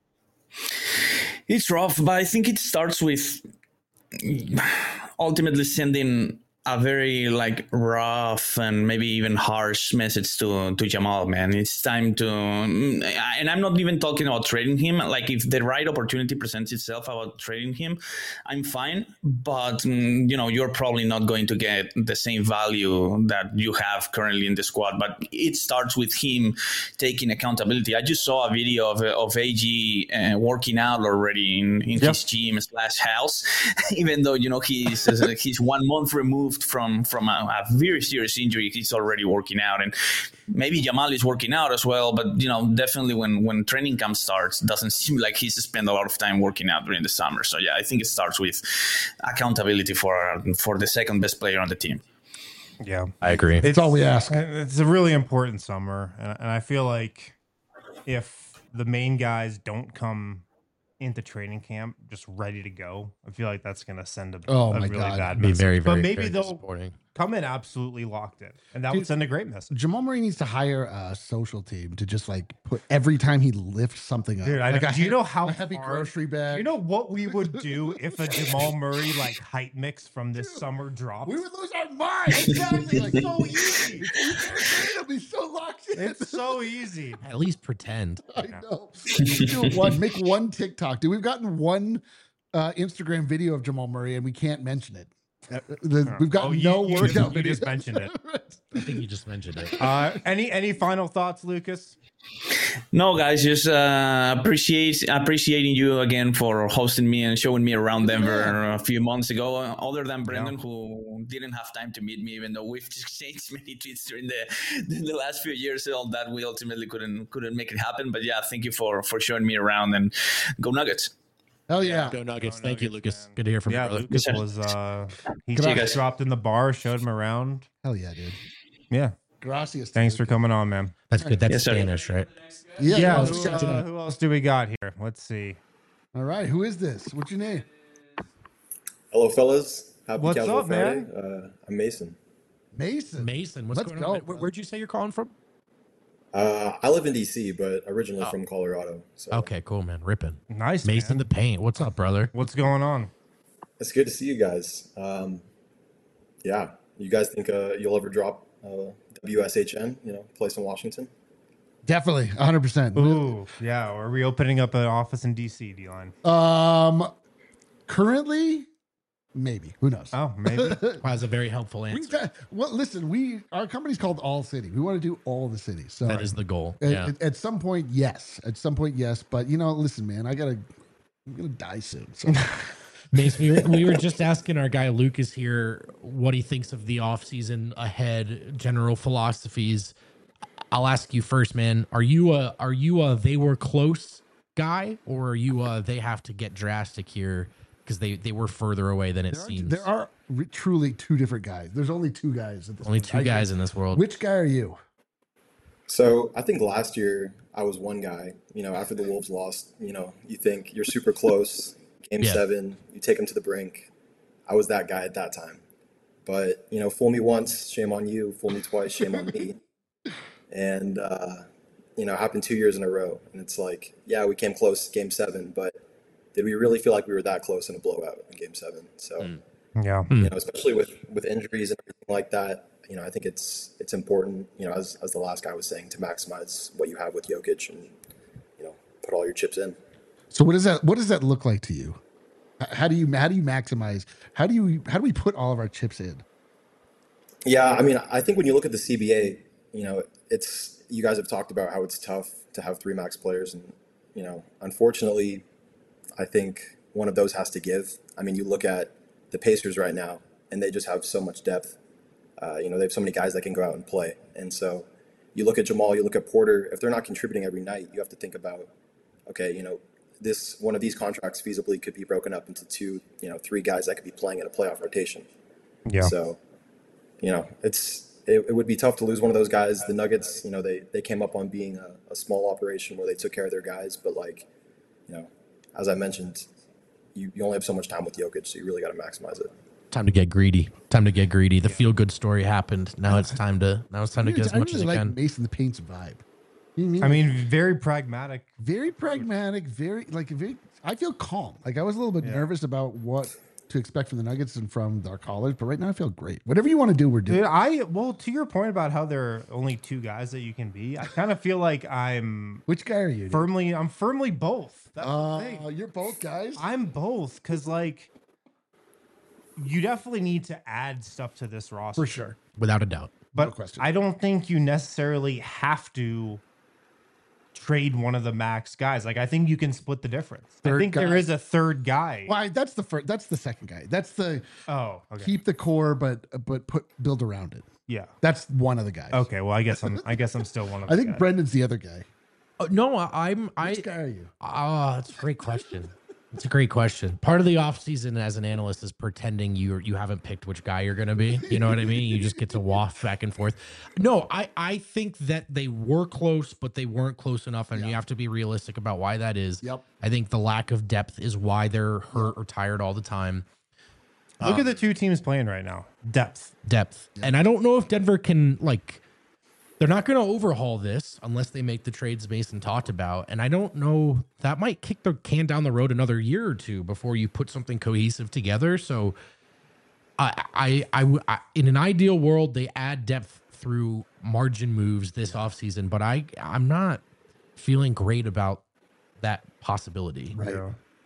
It's rough, but I think it starts with ultimately sending a very rough and maybe even harsh message to Jamal, man. It's time to, and I'm not even talking about trading him. Like, if the right opportunity presents itself about trading him, I'm fine. But you're probably not going to get the same value that you have currently in the squad. But it starts with him taking accountability. I just saw a video of AG working out already in his gym / house, even though he's 1 month removed from a very serious injury. He's already working out, and maybe Jamal is working out as well, but definitely when training camp starts, it doesn't seem like he's spent a lot of time working out during the summer. So I think it starts with accountability for the second best player on the team. Yeah, I agree. It's all we ask. It's a really important summer, and I feel like if the main guys don't come into training camp just ready to go, I feel like that's going to send a really bad message. Very, but very, maybe very they'll disappointing. come in absolutely locked in, and that would send a great message. Jamal Murray needs to hire a social team to just put every time he lifts something up. Dude, do you know how a heavy grocery bag? You know what we would do if a Jamal Murray height mix from this summer dropped? We would lose our minds. Exactly. So easy. It'll be so locked in. It's so easy. At least pretend. I know. Make one TikTok. Dude, we've gotten one Instagram video of Jamal Murray, and we can't mention it. We've got no workout You videos. just mentioned it. I think you just mentioned it. Any final thoughts, Lucas? No, guys, just appreciating you again for hosting me and showing me around Denver a few months ago. Other than Brendan, who didn't have time to meet me, even though we've exchanged many tweets during the last few years, all that we ultimately couldn't make it happen. But yeah, thank you for showing me around, and go Nuggets. Hell yeah. Go Nuggets. Thank you, Lucas. Good to hear from you, Yeah, brother. Lucas was he Come on, just guys. dropped in the bar, showed him around. Hell yeah, dude. Yeah. Gracias. Thanks for coming on, man. That's good. That's Yes, sir. Spanish, right? Yeah. Who else do we got here? Let's see. All right. Who is this? What's your name? Hello, fellas. Happy What's Casual up, Friday. man? I'm Mason. Mason. Mason, what's Let's going go. on? Where'd you say you're calling from? I live in DC, but originally from Colorado. So Okay, cool, man. Ripping. Nice, Mason man. the Paint. What's up, brother? What's going on? it's good to see you guys. Yeah, you guys think you'll ever drop WSHN? Place in Washington. Definitely. 100%. Ooh, yeah. Are we opening up an office in DC, D-Line? Currently, maybe. Who knows? Oh, maybe. That's a very helpful answer. Well, listen, our company's called All City. We want to do all the cities. So That is the goal. At, Yeah. at some point, yes. At some point, yes. But listen, man, I'm gonna die soon. So Mace, we were just asking our guy Lucas here what he thinks of the offseason ahead, general philosophies. I'll ask you first, man. Are you a they were close guy, or are you they have to get drastic here because they were further away than it seems? there are truly two different guys. There's only two guys. At this Only point. two guys in this world. Which guy are you? So I think last year I was one guy. After the Wolves lost, you think you're super close. Game Yeah. 7, you take them to the brink. I was that guy at that time. But fool me once, shame on you. Fool me twice, shame on me. And happened 2 years in a row. And it's like, yeah, we came close Game 7, but did we really feel like we were that close in a blowout in Game 7? So, Yeah. especially with injuries and everything like that, I think it's important, as the last guy was saying, to maximize what you have with Jokic and, put all your chips in. So what does that look like to you? How do you maximize? How do we put all of our chips in? Yeah, I mean, I think when you look at the CBA, it's you guys have talked about how it's tough to have 3 max players, and unfortunately, I think one of those has to give. I mean, you look at the Pacers right now, and they just have so much depth. They have so many guys that can go out and play, and so you look at Jamal, you look at Porter. If they're not contributing every night, you have to think about, okay, this one of these contracts feasibly could be broken up into 2, 3 guys that could be playing in a playoff rotation. Yeah. So, it would be tough to lose one of those guys. The Nuggets, they came up on being a small operation where they took care of their guys, but as I mentioned, you only have so much time with Jokic, so you really got to maximize it. Time to get greedy. The feel good story happened. Now it's time to get as much as you like can. Mason the Paint's vibe. You know what I mean, very pragmatic. very pragmatic, very. I feel calm. Like I was a little bit nervous about what to expect from the Nuggets and from our callers, but right now I feel great. Whatever you want to do, we're doing. Dude, to your point about how there are only 2 guys that you can be, I kind of feel like I'm Which guy are you? dude? firmly both. That's the thing. You're both guys. I'm both, because you definitely need to add stuff to this roster For sure. Without a doubt. but question. I don't think you necessarily have to trade one of the max guys. I think you can split the difference. I Third think there guy. is a third guy. Why? That's the first. That's the second guy. That's the Oh, okay. keep the core, but build around it. Yeah. That's one of the guys. Okay. Well, I guess I'm still one of. I the think guys. Brendan's the other guy. No, Which guy are you? That's a great question. It's a great question. Part of the offseason as an analyst is pretending you haven't picked which guy you're going to be. You know what I mean? You just get to waft back and forth. No, I think that they were close, but they weren't close enough, and you have to be realistic about why that is. Yep. I think the lack of depth is why they're hurt or tired all the time. Look at the 2 teams playing right now. Depth. And I don't know if Denver can they're not going to overhaul this unless they make the trades Mason talked about. And I don't know, that might kick the can down the road another year or 2 before you put something cohesive together. So I in an ideal world, they add depth through margin moves this offseason, but I'm not feeling great about that possibility. Right. Yeah.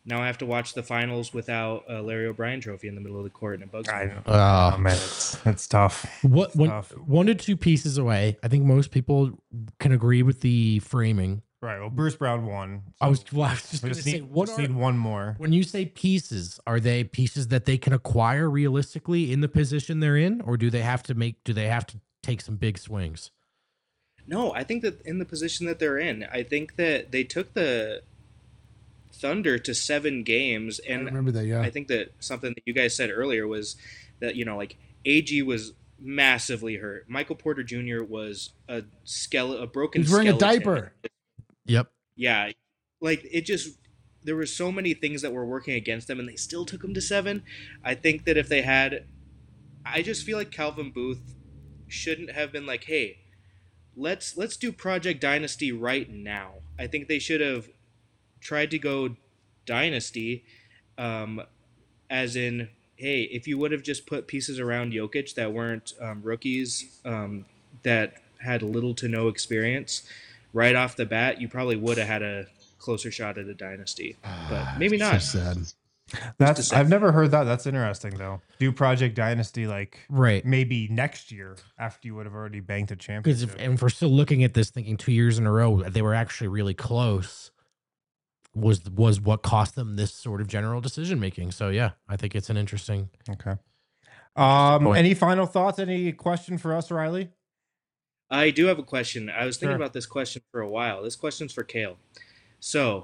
Now I have to watch the finals without a Larry O'Brien trophy in the middle of the court, and it bugs me. I know. Oh, man, it's tough. What one to two pieces away? I think most people can agree with the framing. Right. Well, Bruce Brown won. I was just We going to just say, need one more. when you say pieces, are they pieces that they can acquire realistically in the position they're in, or do they have to take some big swings? No, I think that in the position that they're in, I think that they took the Thunder to 7 games, and I remember that. Yeah, I think that something that you guys said earlier was that like AG was massively hurt. Michael Porter Jr. was a broken. He's wearing a skeleton. diaper. Yep. Yeah, like it just there were so many things that were working against them, and they still took them to 7. I think that if they had, I just feel like Calvin Booth shouldn't have been like, hey, let's do Project Dynasty right now. I think they should have tried to go Dynasty, as in, hey, if you would have just put pieces around Jokic that weren't rookies, that had little to no experience right off the bat, you probably would have had a closer shot at a Dynasty, but maybe not. So sad. I've never heard that. That's interesting though. Do Project Dynasty Right. maybe next year after you would have already banked a Because championship. if we're still looking at this, thinking 2 years in a row they were actually really close, was what cost them this sort of general decision making. So yeah, I think it's an interesting. Okay. point. Any final thoughts? Any question for us, Riley? I do have a question. I was thinking Sure. about this question for a while. This question's for Kale. So,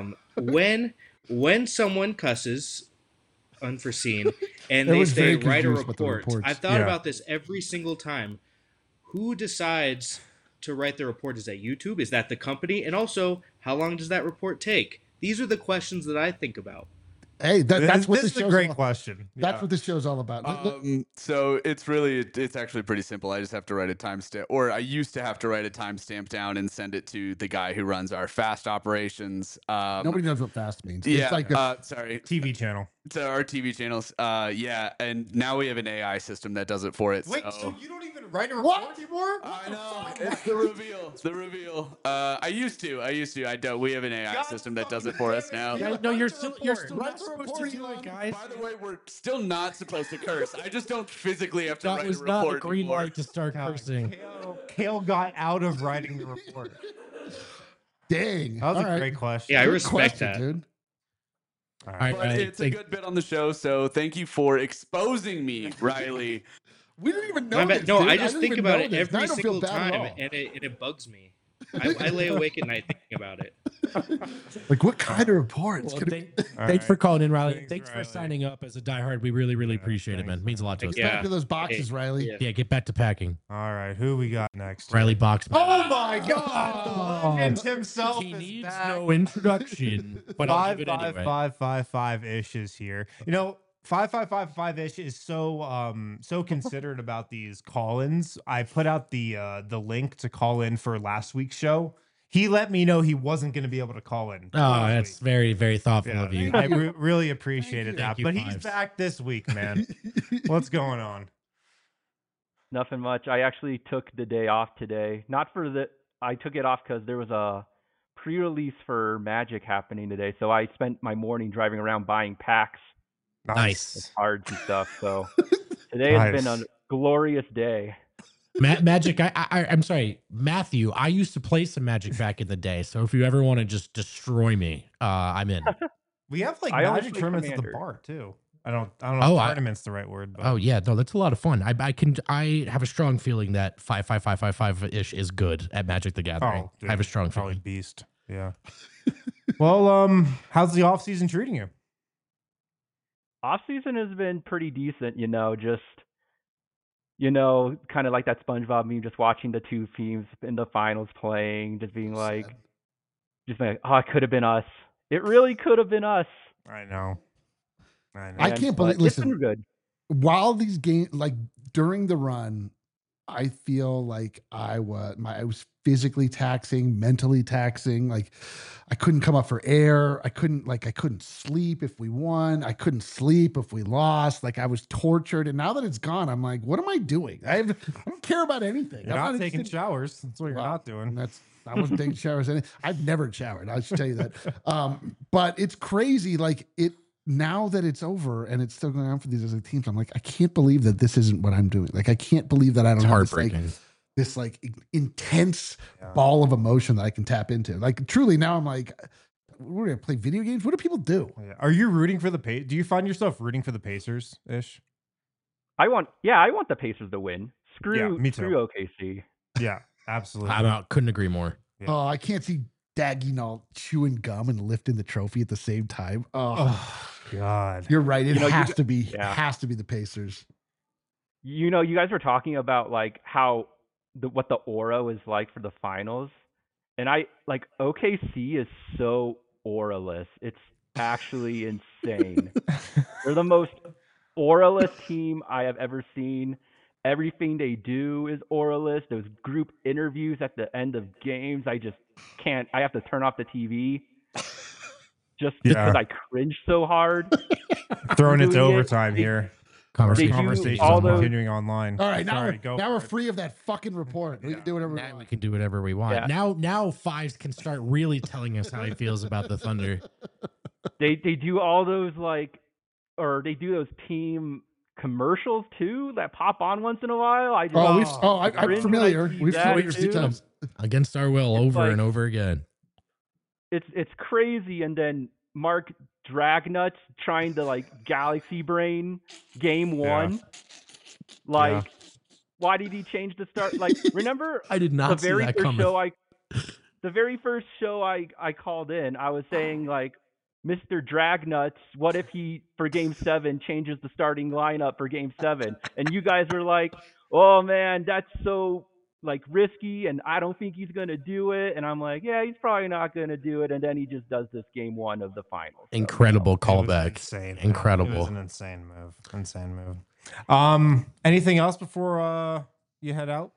when someone cusses unforeseen and I they was say very write a confused with the report, reports. I've thought Yeah. about this every single time. Who decides to write the report? Is that YouTube? Is that the company? And also, how long does that report take? These are the questions that I think about. Hey, that's what this this is a show's great all, question. That's Yeah. what this show's all about. So it's actually pretty simple. I just have to write a timestamp, or I used to have to write a timestamp down and send it to the guy who runs our fast operations. Nobody knows what fast means. Yeah, It's like sorry, TV channel. to our TV channels. Yeah, and now we have an AI system that does it for it. so you don't even write a report anymore? I know it's the reveal. The reveal. I used to. I don't. We have an AI system that does it for us now. No, you're still Write not supposed to do it, guys. By the way, we're still not supposed to curse. I just don't physically have to That write was a not report a green anymore. light to start cursing. Kale got out of writing the report. dang. That was All a right. great question. Yeah, I Good respect question, that. dude. All All right. right, But Riley, it's a good bit on the show, so thank you for exposing me, Riley. We didn't even know My bad. this, No, dude. I just didn't think even about know it this. Now I every don't feel single bad at time, all. and it bugs me. I lay awake at night thinking about it. Like, what kind of report? It's Well, gonna be- thanks for calling in, Riley. Thanks, Thanks for Riley. signing up as a diehard. We really, really appreciate it, man. It means a lot to us. Yeah. Back to those boxes, Hey, Riley. yeah. Yeah, get back to packing. All right. Who we got next? Riley Box. Oh my God! The legend himself He is needs back. no introduction, but I'll give it anyway. 55555 ish is here. 5555 ish is so considerate about these call-ins. I put out the link to call in for last week's show. He let me know he wasn't going to be able to call in. Oh, last that's week. very, very thoughtful Yeah, of you. I really appreciated that. Thank you, But he's Fives. back this week, man. What's going on? Nothing much. I actually took the day off today. I took it off because there was a pre-release for Magic happening today. So I spent my morning driving around buying packs, Nice. cards, and stuff. So today has been a Nice. glorious day. Magic. I'm sorry, Matthew. I used to play some Magic back in the day. So if you ever want to just destroy me, I'm in. We have I only Magic play tournaments at the Commander. bar too. I don't know Oh, if I- tournament's the right word, but Oh yeah, no, that's a lot of fun. I have a strong feeling that 55555 ish is good at Magic the Gathering. dude, I have a strong probably feeling. beast. Yeah. Well, how's the off season treating you? Off season has been pretty decent, just kind of like that SpongeBob meme, just watching the two teams in the finals playing, just being like, oh, it could have been us. It really could have been us. I know. I can't believe. But it's Listen, been good. while these games, like during the run, I feel like I was physically taxing, mentally taxing. Like I couldn't come up for air. I couldn't sleep if we won. I couldn't sleep if we lost. Like I was tortured. And now that it's gone, I'm like, what am I doing? I don't care about anything. You're I'm not taking interested- showers. That's what you're Well, not doing. I wasn't taking showers. I've never showered. I should tell you that. But it's crazy. Like now that it's over and it's still going on for these other teams, I'm like, I can't believe that this isn't what I'm doing. Like, I can't believe that I don't It's have heartbreaking. this intense ball of emotion that I can tap into. Like, truly, now I'm like, we're gonna play video games. What do people do? Yeah. Are you rooting for the Do you find yourself rooting for the Pacers ish? I want the Pacers to win. Me too. Screw OKC. Yeah, absolutely. Couldn't agree more. Yeah. Oh, I can't see Dagnall chewing gum and lifting the trophy at the same time. Oh God. You're right. It has to be. yeah. It has to be the Pacers. You know, you guys were talking about like how what the aura is like for the finals, and OKC is so auraless. It's actually insane. They're the most auraless team I have ever seen. Everything they do is auraless. Those group interviews at the end of games, I just can't. I have to turn off the TV just because I cringe so hard. Throwing it to doing overtime here. Conversations all those- continuing online. All right, now Sorry, go now we're for it. free of that fucking report. We can do whatever we Now we want. can do whatever we want. Yeah. Now Fives can start really telling us how he feels about the Thunder. They do all those they do those team commercials too that pop on once in a while. I'm cringe familiar. when I see We've that seen it a few too. times. Against our will, over like- and over again. It's crazy. And then Mark Dragnuts trying to galaxy brain game one. Why did he change the start? Remember I did not the see very that first coming. show the very first show I called in, I was saying Mr. Dragnuts, what if he for game 7 changes the starting lineup for game 7? And you guys were like, oh man, that's so risky and I don't think he's gonna do it. And I'm like, yeah, he's probably not gonna do it. And then he just does this game 1 of the finals. So, Incredible It was callback. insane. It Incredible. was an insane move. Anything else before you head out?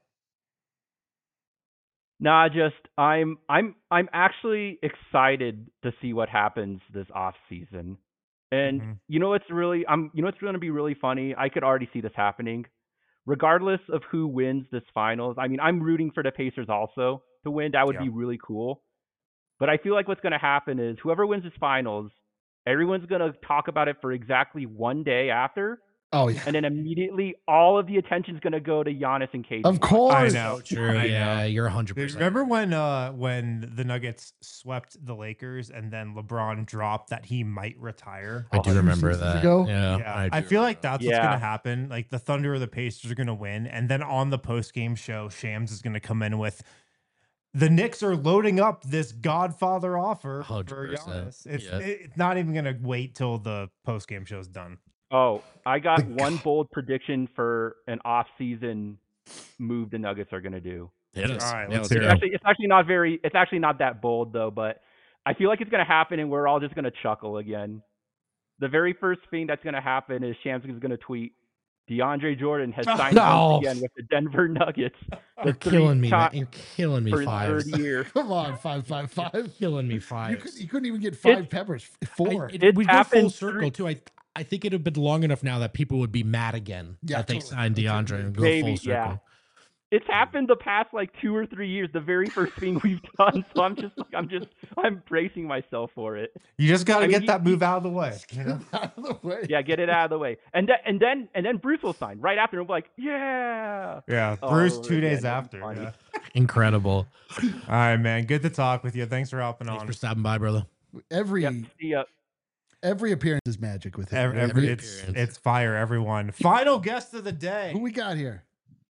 Nah, just I'm actually excited to see what happens this off season. And you know what's going to be really funny? I could already see this happening. Regardless of who wins this finals, I mean, I'm rooting for the Pacers also to win. That would be really cool. But I feel like what's going to happen is whoever wins this finals, everyone's going to talk about it for exactly one day after. Oh yeah, And then immediately all of the attention's going to go to Giannis and KD. of course. I know. True. Yeah, you're 100%. Remember when the Nuggets swept the Lakers and then LeBron dropped that he might retire? I do remember seasons that. ago? Yeah, I feel like that's what's Yeah. going to happen. Like the Thunder or the Pacers are going to win, and then on the post-game show, Shams is going to come in with the Knicks are loading up this Godfather offer for 100%. Giannis. It's Yeah. it's not even going to wait till the post-game show's done. Oh, I got one bold prediction for an off-season move the Nuggets are going to do. Hit us. All right, Yeah, let's let's hear hear it. it. It's actually not that bold though, but I feel like it's going to happen and we're all just going to chuckle again. The very first thing that's going to happen is Shams is going to tweet, DeAndre Jordan has signed No. once again with the Denver Nuggets. You're killing me, man. You're killing me, for his Fives. third year. Come on, 555. Killing me, You, Fives. couldn't even get 5 peppers. 4. We go full happened circle too. I think it would have been long enough now that people would be mad again Yeah, that they totally. signed DeAndre and go Maybe, full circle. yeah. It's happened the past 2 or 3 years, the very first thing we've done. So I'm bracing myself for it. You just got to I mean, get that move out of the way. You know? Out of the way. Yeah, get it out of the way. And then Bruce will sign right after. And we're like, yeah. Yeah, All Bruce over 2 days again. after. Funny. Yeah. Incredible. All right, man. Good to talk with you. Thanks for helping Thanks on. for stopping by, brother. Every Yep. See ya. every appearance is magic with him. It's fire, everyone. Final guest of the day. Who we got here?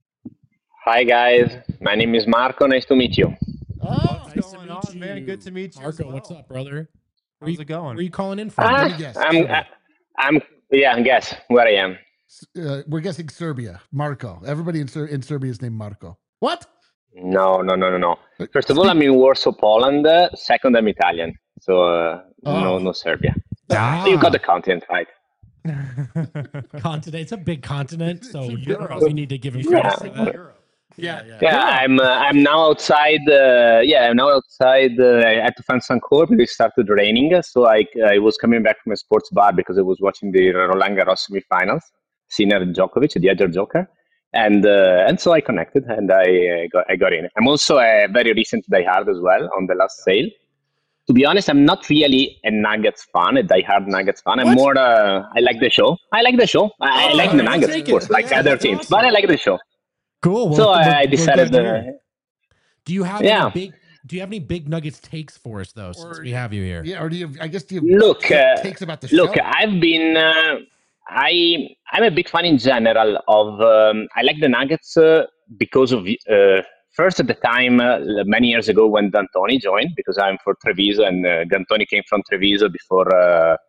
Hi guys, my name is Marco. Nice to meet you. Oh, What's going on, man? Good to meet you. as Marco, well. what's up, brother? How's it going? Where are you calling in from? Let me guess. I'm yeah. Guess where I am. We're guessing Serbia. Marco. Everybody in Serbia is named Marco. What? No. First of all, I'm in Warsaw, Poland. Second, I'm Italian. So no Serbia. Ah. So you got the continent right. Continent. It's a big continent, so Europe. we need to give him Yeah. credit for that. Yeah, I'm now outside. I'm now outside. I had to find some cover because it started raining. So I was coming back from a sports bar because I was watching the Roland Garros semifinals. Sinner Djokovic, the other Joker, and so I connected and I got in. I'm also a very recent diehard as well on the last sale. to be honest, I'm not really a Nuggets fan, a diehard Nuggets fan. I'm more, I like the show. I like the show. I like the Nuggets, of course, like other teams, but I like the show. Cool. Well, So I decided. Do you have any big? Do you have any big Nuggets takes for us though? Since we have you here. Yeah, or do you? I guess do you Look, takes about the show? look. I've been. I'm a big fan in general of. I like the Nuggets because of first at the time many years ago when D'Antoni joined, because I'm for Treviso and D'Antoni came from Treviso before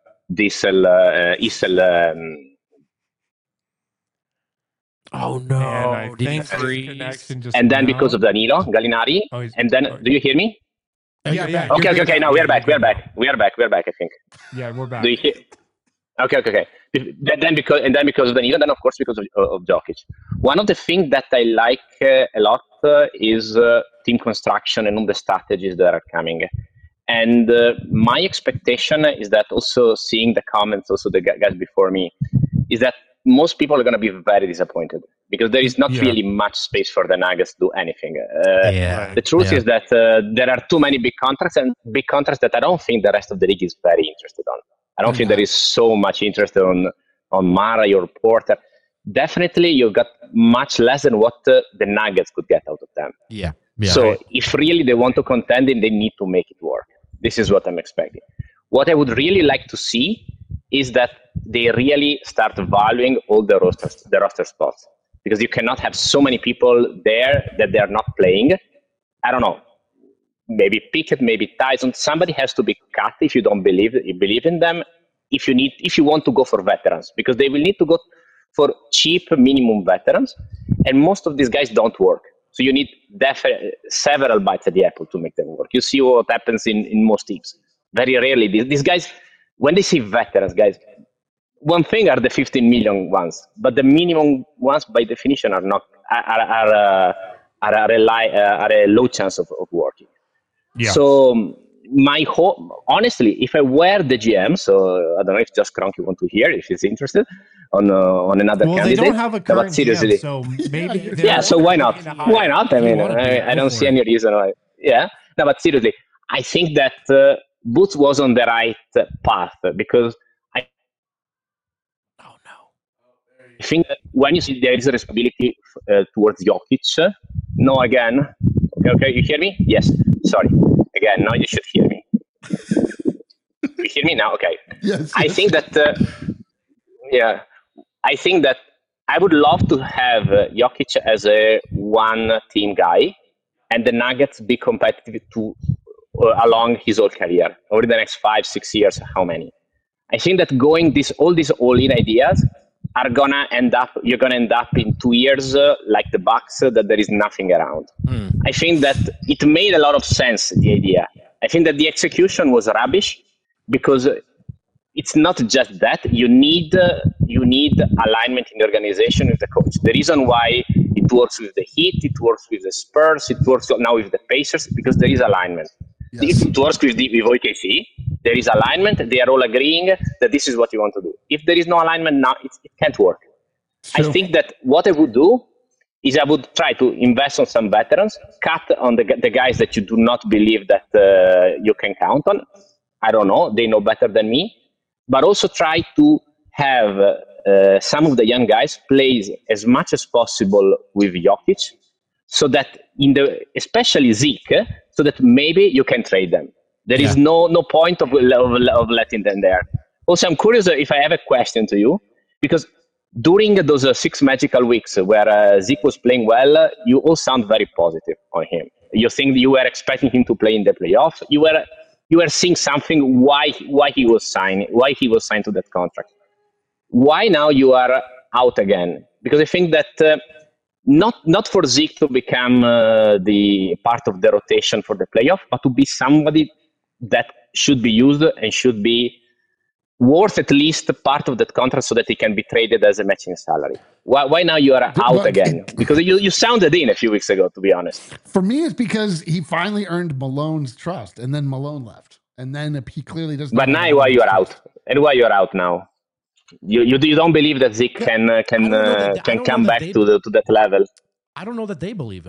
Issel. Oh no! Man, I think this connection just And then went because out. of Danilo Gallinari, and then do you hear me? Yeah. Okay. Now we are back. We are back. I think. Yeah, we're back. Do you hear? Okay. Then because of Danilo, then of course because of Jokic. One of the things that I like a lot is team construction and all the strategies that are coming. And my expectation is that also seeing the comments, also the guys before me, is that most people are going to be very disappointed because there is not really much space for the Nuggets to do anything. The truth is that there are too many big contracts that I don't think the rest of the league is very interested on. I don't think there is so much interest on Murray or Porter. Definitely, you got much less than what the Nuggets could get out of them. Yeah. So if really they want to contend, then they need to make it work. This is what I'm expecting. What I would really like to see is that they really start valuing all the roster spots, because you cannot have so many people there that they are not playing. I don't know. Maybe Pickett, maybe Tyson. Somebody has to be cut if you don't believe in them. If you want to go for veterans, because they will need to go for cheap minimum veterans, and most of these guys don't work. So you need several bites at the apple to make them work. You see what happens in most teams. Very rarely these guys, when they see veterans, guys, one thing are the 15 million ones, but the minimum ones by definition are not are a low chance of working. Yeah. So my hope, honestly, if I were the GM, so I don't know if Just Kroenke want to hear if he's interested on another candidate. They don't have a current seriously, GM, so maybe. So why not? Why not? I mean, I don't see any reason why. Yeah. No, but seriously, I think that Boots was on the right path, because I think that when you see there is a responsibility towards Jokic. No, again. Okay, you hear me? Yes. Sorry. Again, now you should hear me. You hear me now? Okay. Yes. I think that. I think that I would love to have Jokic as a one-team guy, and the Nuggets be competitive along his whole career over the next 5-6 years. How many? I think that going all these all-in ideas are gonna end up. You're gonna end up in 2 years like the Bucks, that there is nothing around. I think that it made a lot of sense, the idea. I think that the execution was rubbish, because it's not just that. You need alignment in the organization with the coach. The reason why it works with the Heat, it works with the Spurs, it works now with the Pacers, because there is alignment. If it works with OKC, there is alignment. They are all agreeing that this is what you want to do. If there is no alignment now, it can't work. Sure. I think that what I would do is I would try to invest on some veterans, cut on the guys that you do not believe that you can count on. I don't know. They know better than me. But also try to have some of the young guys play as much as possible with Jokic, so that especially Zeke, so that maybe you can trade them. There is no point of letting them there. Also, I'm curious if I have a question to you, because during those 6 magical weeks where Zeke was playing well, you all sound very positive on him. You think you were expecting him to play in the playoff. You were seeing something why he was signed to that contract. Why now you are out again? Because I think that not for Zeke to become the part of the rotation for the playoff, but to be somebody that should be used and should be worth at least part of that contract, so that he can be traded as a matching salary. Why now you are out again? Because you sounded in a few weeks ago, to be honest. For me, it's because he finally earned Malone's trust, and then Malone left, and then he clearly doesn't. But now why you are out? And why you are out now? You don't believe that Zeke can come back to that level? I don't know that they believe in him.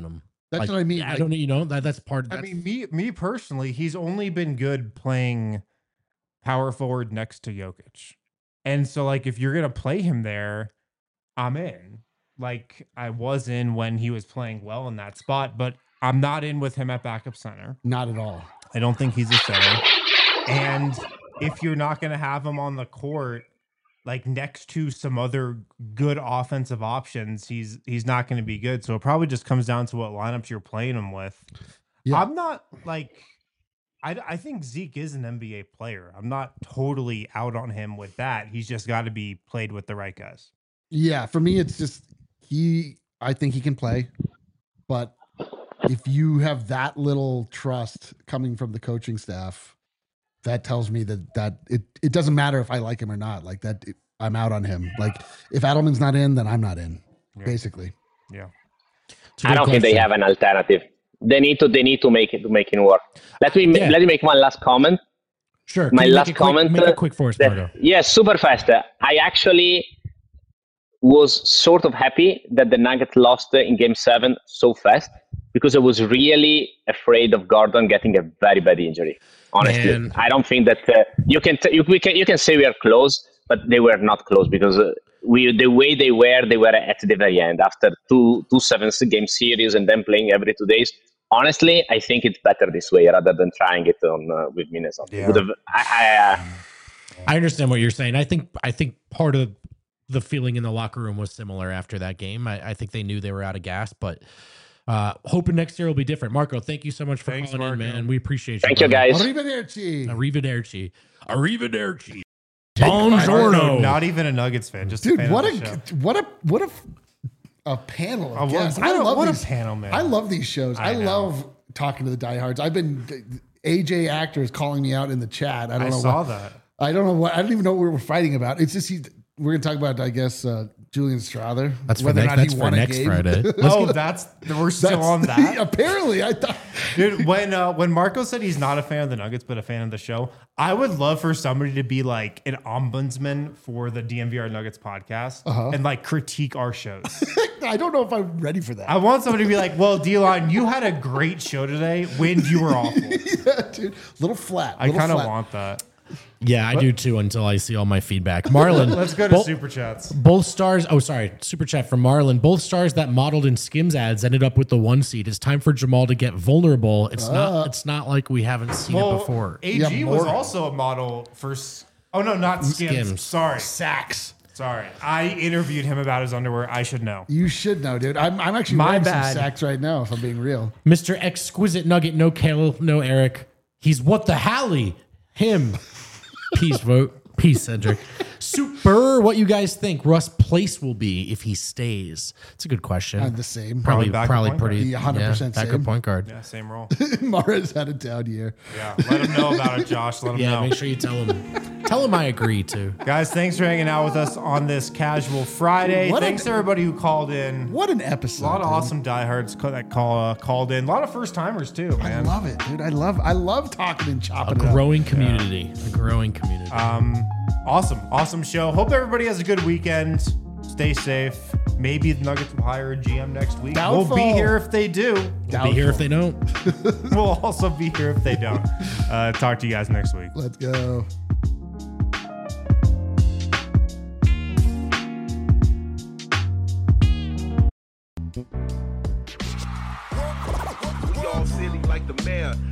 That's what I mean. I don't know. That's part. I mean, me personally, he's only been good playing power forward next to Jokic. And so, like, if you're going to play him there, I'm in. Like, I was in when he was playing well in that spot, but I'm not in with him at backup center. Not at all. I don't think he's a center. And if you're not going to have him on the court, like, next to some other good offensive options, he's not going to be good. So it probably just comes down to what lineups you're playing him with. Yeah. I'm not, like... I think Zeke is an NBA player. I'm not totally out on him with that. He's just got to be played with the right guys. Yeah, for me, it's just I think he can play, but if you have that little trust coming from the coaching staff, that tells me that it doesn't matter if I like him or not. Like that, I'm out on him. Like if Adelman's not in, then I'm not in. Yeah. Basically. Yeah. I don't think they have an alternative. They need to make it work. Let me make one last comment. Sure. My last comment. Make it quick for us, Margo. Yes, super fast. I actually was sort of happy that the Nuggets lost in Game 7 so fast because I was really afraid of Gordon getting a very bad injury. Honestly, man. I don't think that you can say we are close, but they were not close because the way they were at the very end after two 7-game series and then playing every 2 days. Honestly, I think it's better this way rather than trying it on with Minnesota. Yeah. I understand what you're saying. I think part of the feeling in the locker room was similar after that game. I think they knew they were out of gas, but hoping next year will be different. Marco, thank you so much for calling in, man. We appreciate you. Thank you, guys. Arrivederci. Buongiorno. Not even a Nuggets fan. Just dude, a fan what of the a panel of guests. What a panel, man. I love these shows. I love talking to the diehards. I've been AJ Actor is calling me out in the chat. I don't know that. I don't know what. I don't even know what we're fighting about. It's just we're gonna talk about, I guess, Julian Strawther. That's whether or not he won a game. Friday. We're still on that. Apparently, I thought. Dude, when Marco said he's not a fan of the Nuggets but a fan of the show, I would love for somebody to be like an ombudsman for the DMVR Nuggets podcast and like critique our shows. I don't know if I'm ready for that. I want somebody to be like, "Well, D-Line, you had a great show today. When you were awful." Yeah, dude, little flat. I kind of want that. Yeah, I do too until I see all my feedback. Marlon. Let's go to Super Chats. Both stars. Oh, sorry. Super Chat from Marlon. Both stars that modeled in Skims ads ended up with the 1 seed. It's time for Jamal to get vulnerable. It's not like we haven't seen it before. AG was also a model for. Oh, no, not Skims. Sorry. Saks. Sorry. I interviewed him about his underwear. I should know. You should know, dude. I'm actually wearing some Saks right now, if I'm being real. Mr. Exquisite Nugget. No Kale, no Eric. He's what the Hallie. Him. Peace vote. Peace, Cedric. Super. What you guys think Russ' place will be if he stays? It's a good question. The same. Probably pretty. 100% same. Backup point guard. Yeah, same role. Mara's had a down year. Yeah, let him know about it, Josh. Let him know. Yeah, make sure you tell him. Tell him I agree too. Guys, thanks for hanging out with us on this casual Friday. Thanks to everybody who called in. What an episode. A lot of awesome diehards that called in. A lot of first timers too, man. I love it, dude. I love talking and chopping it up. A growing community. Awesome show. Hope everybody has a good weekend. Stay safe. Maybe the Nuggets will hire a GM next week. Doubtful. We'll be here if they do. We'll be here if they don't. We'll also be here if they don't. Talk to you guys next week. Let's go. Y'all silly like the mayor.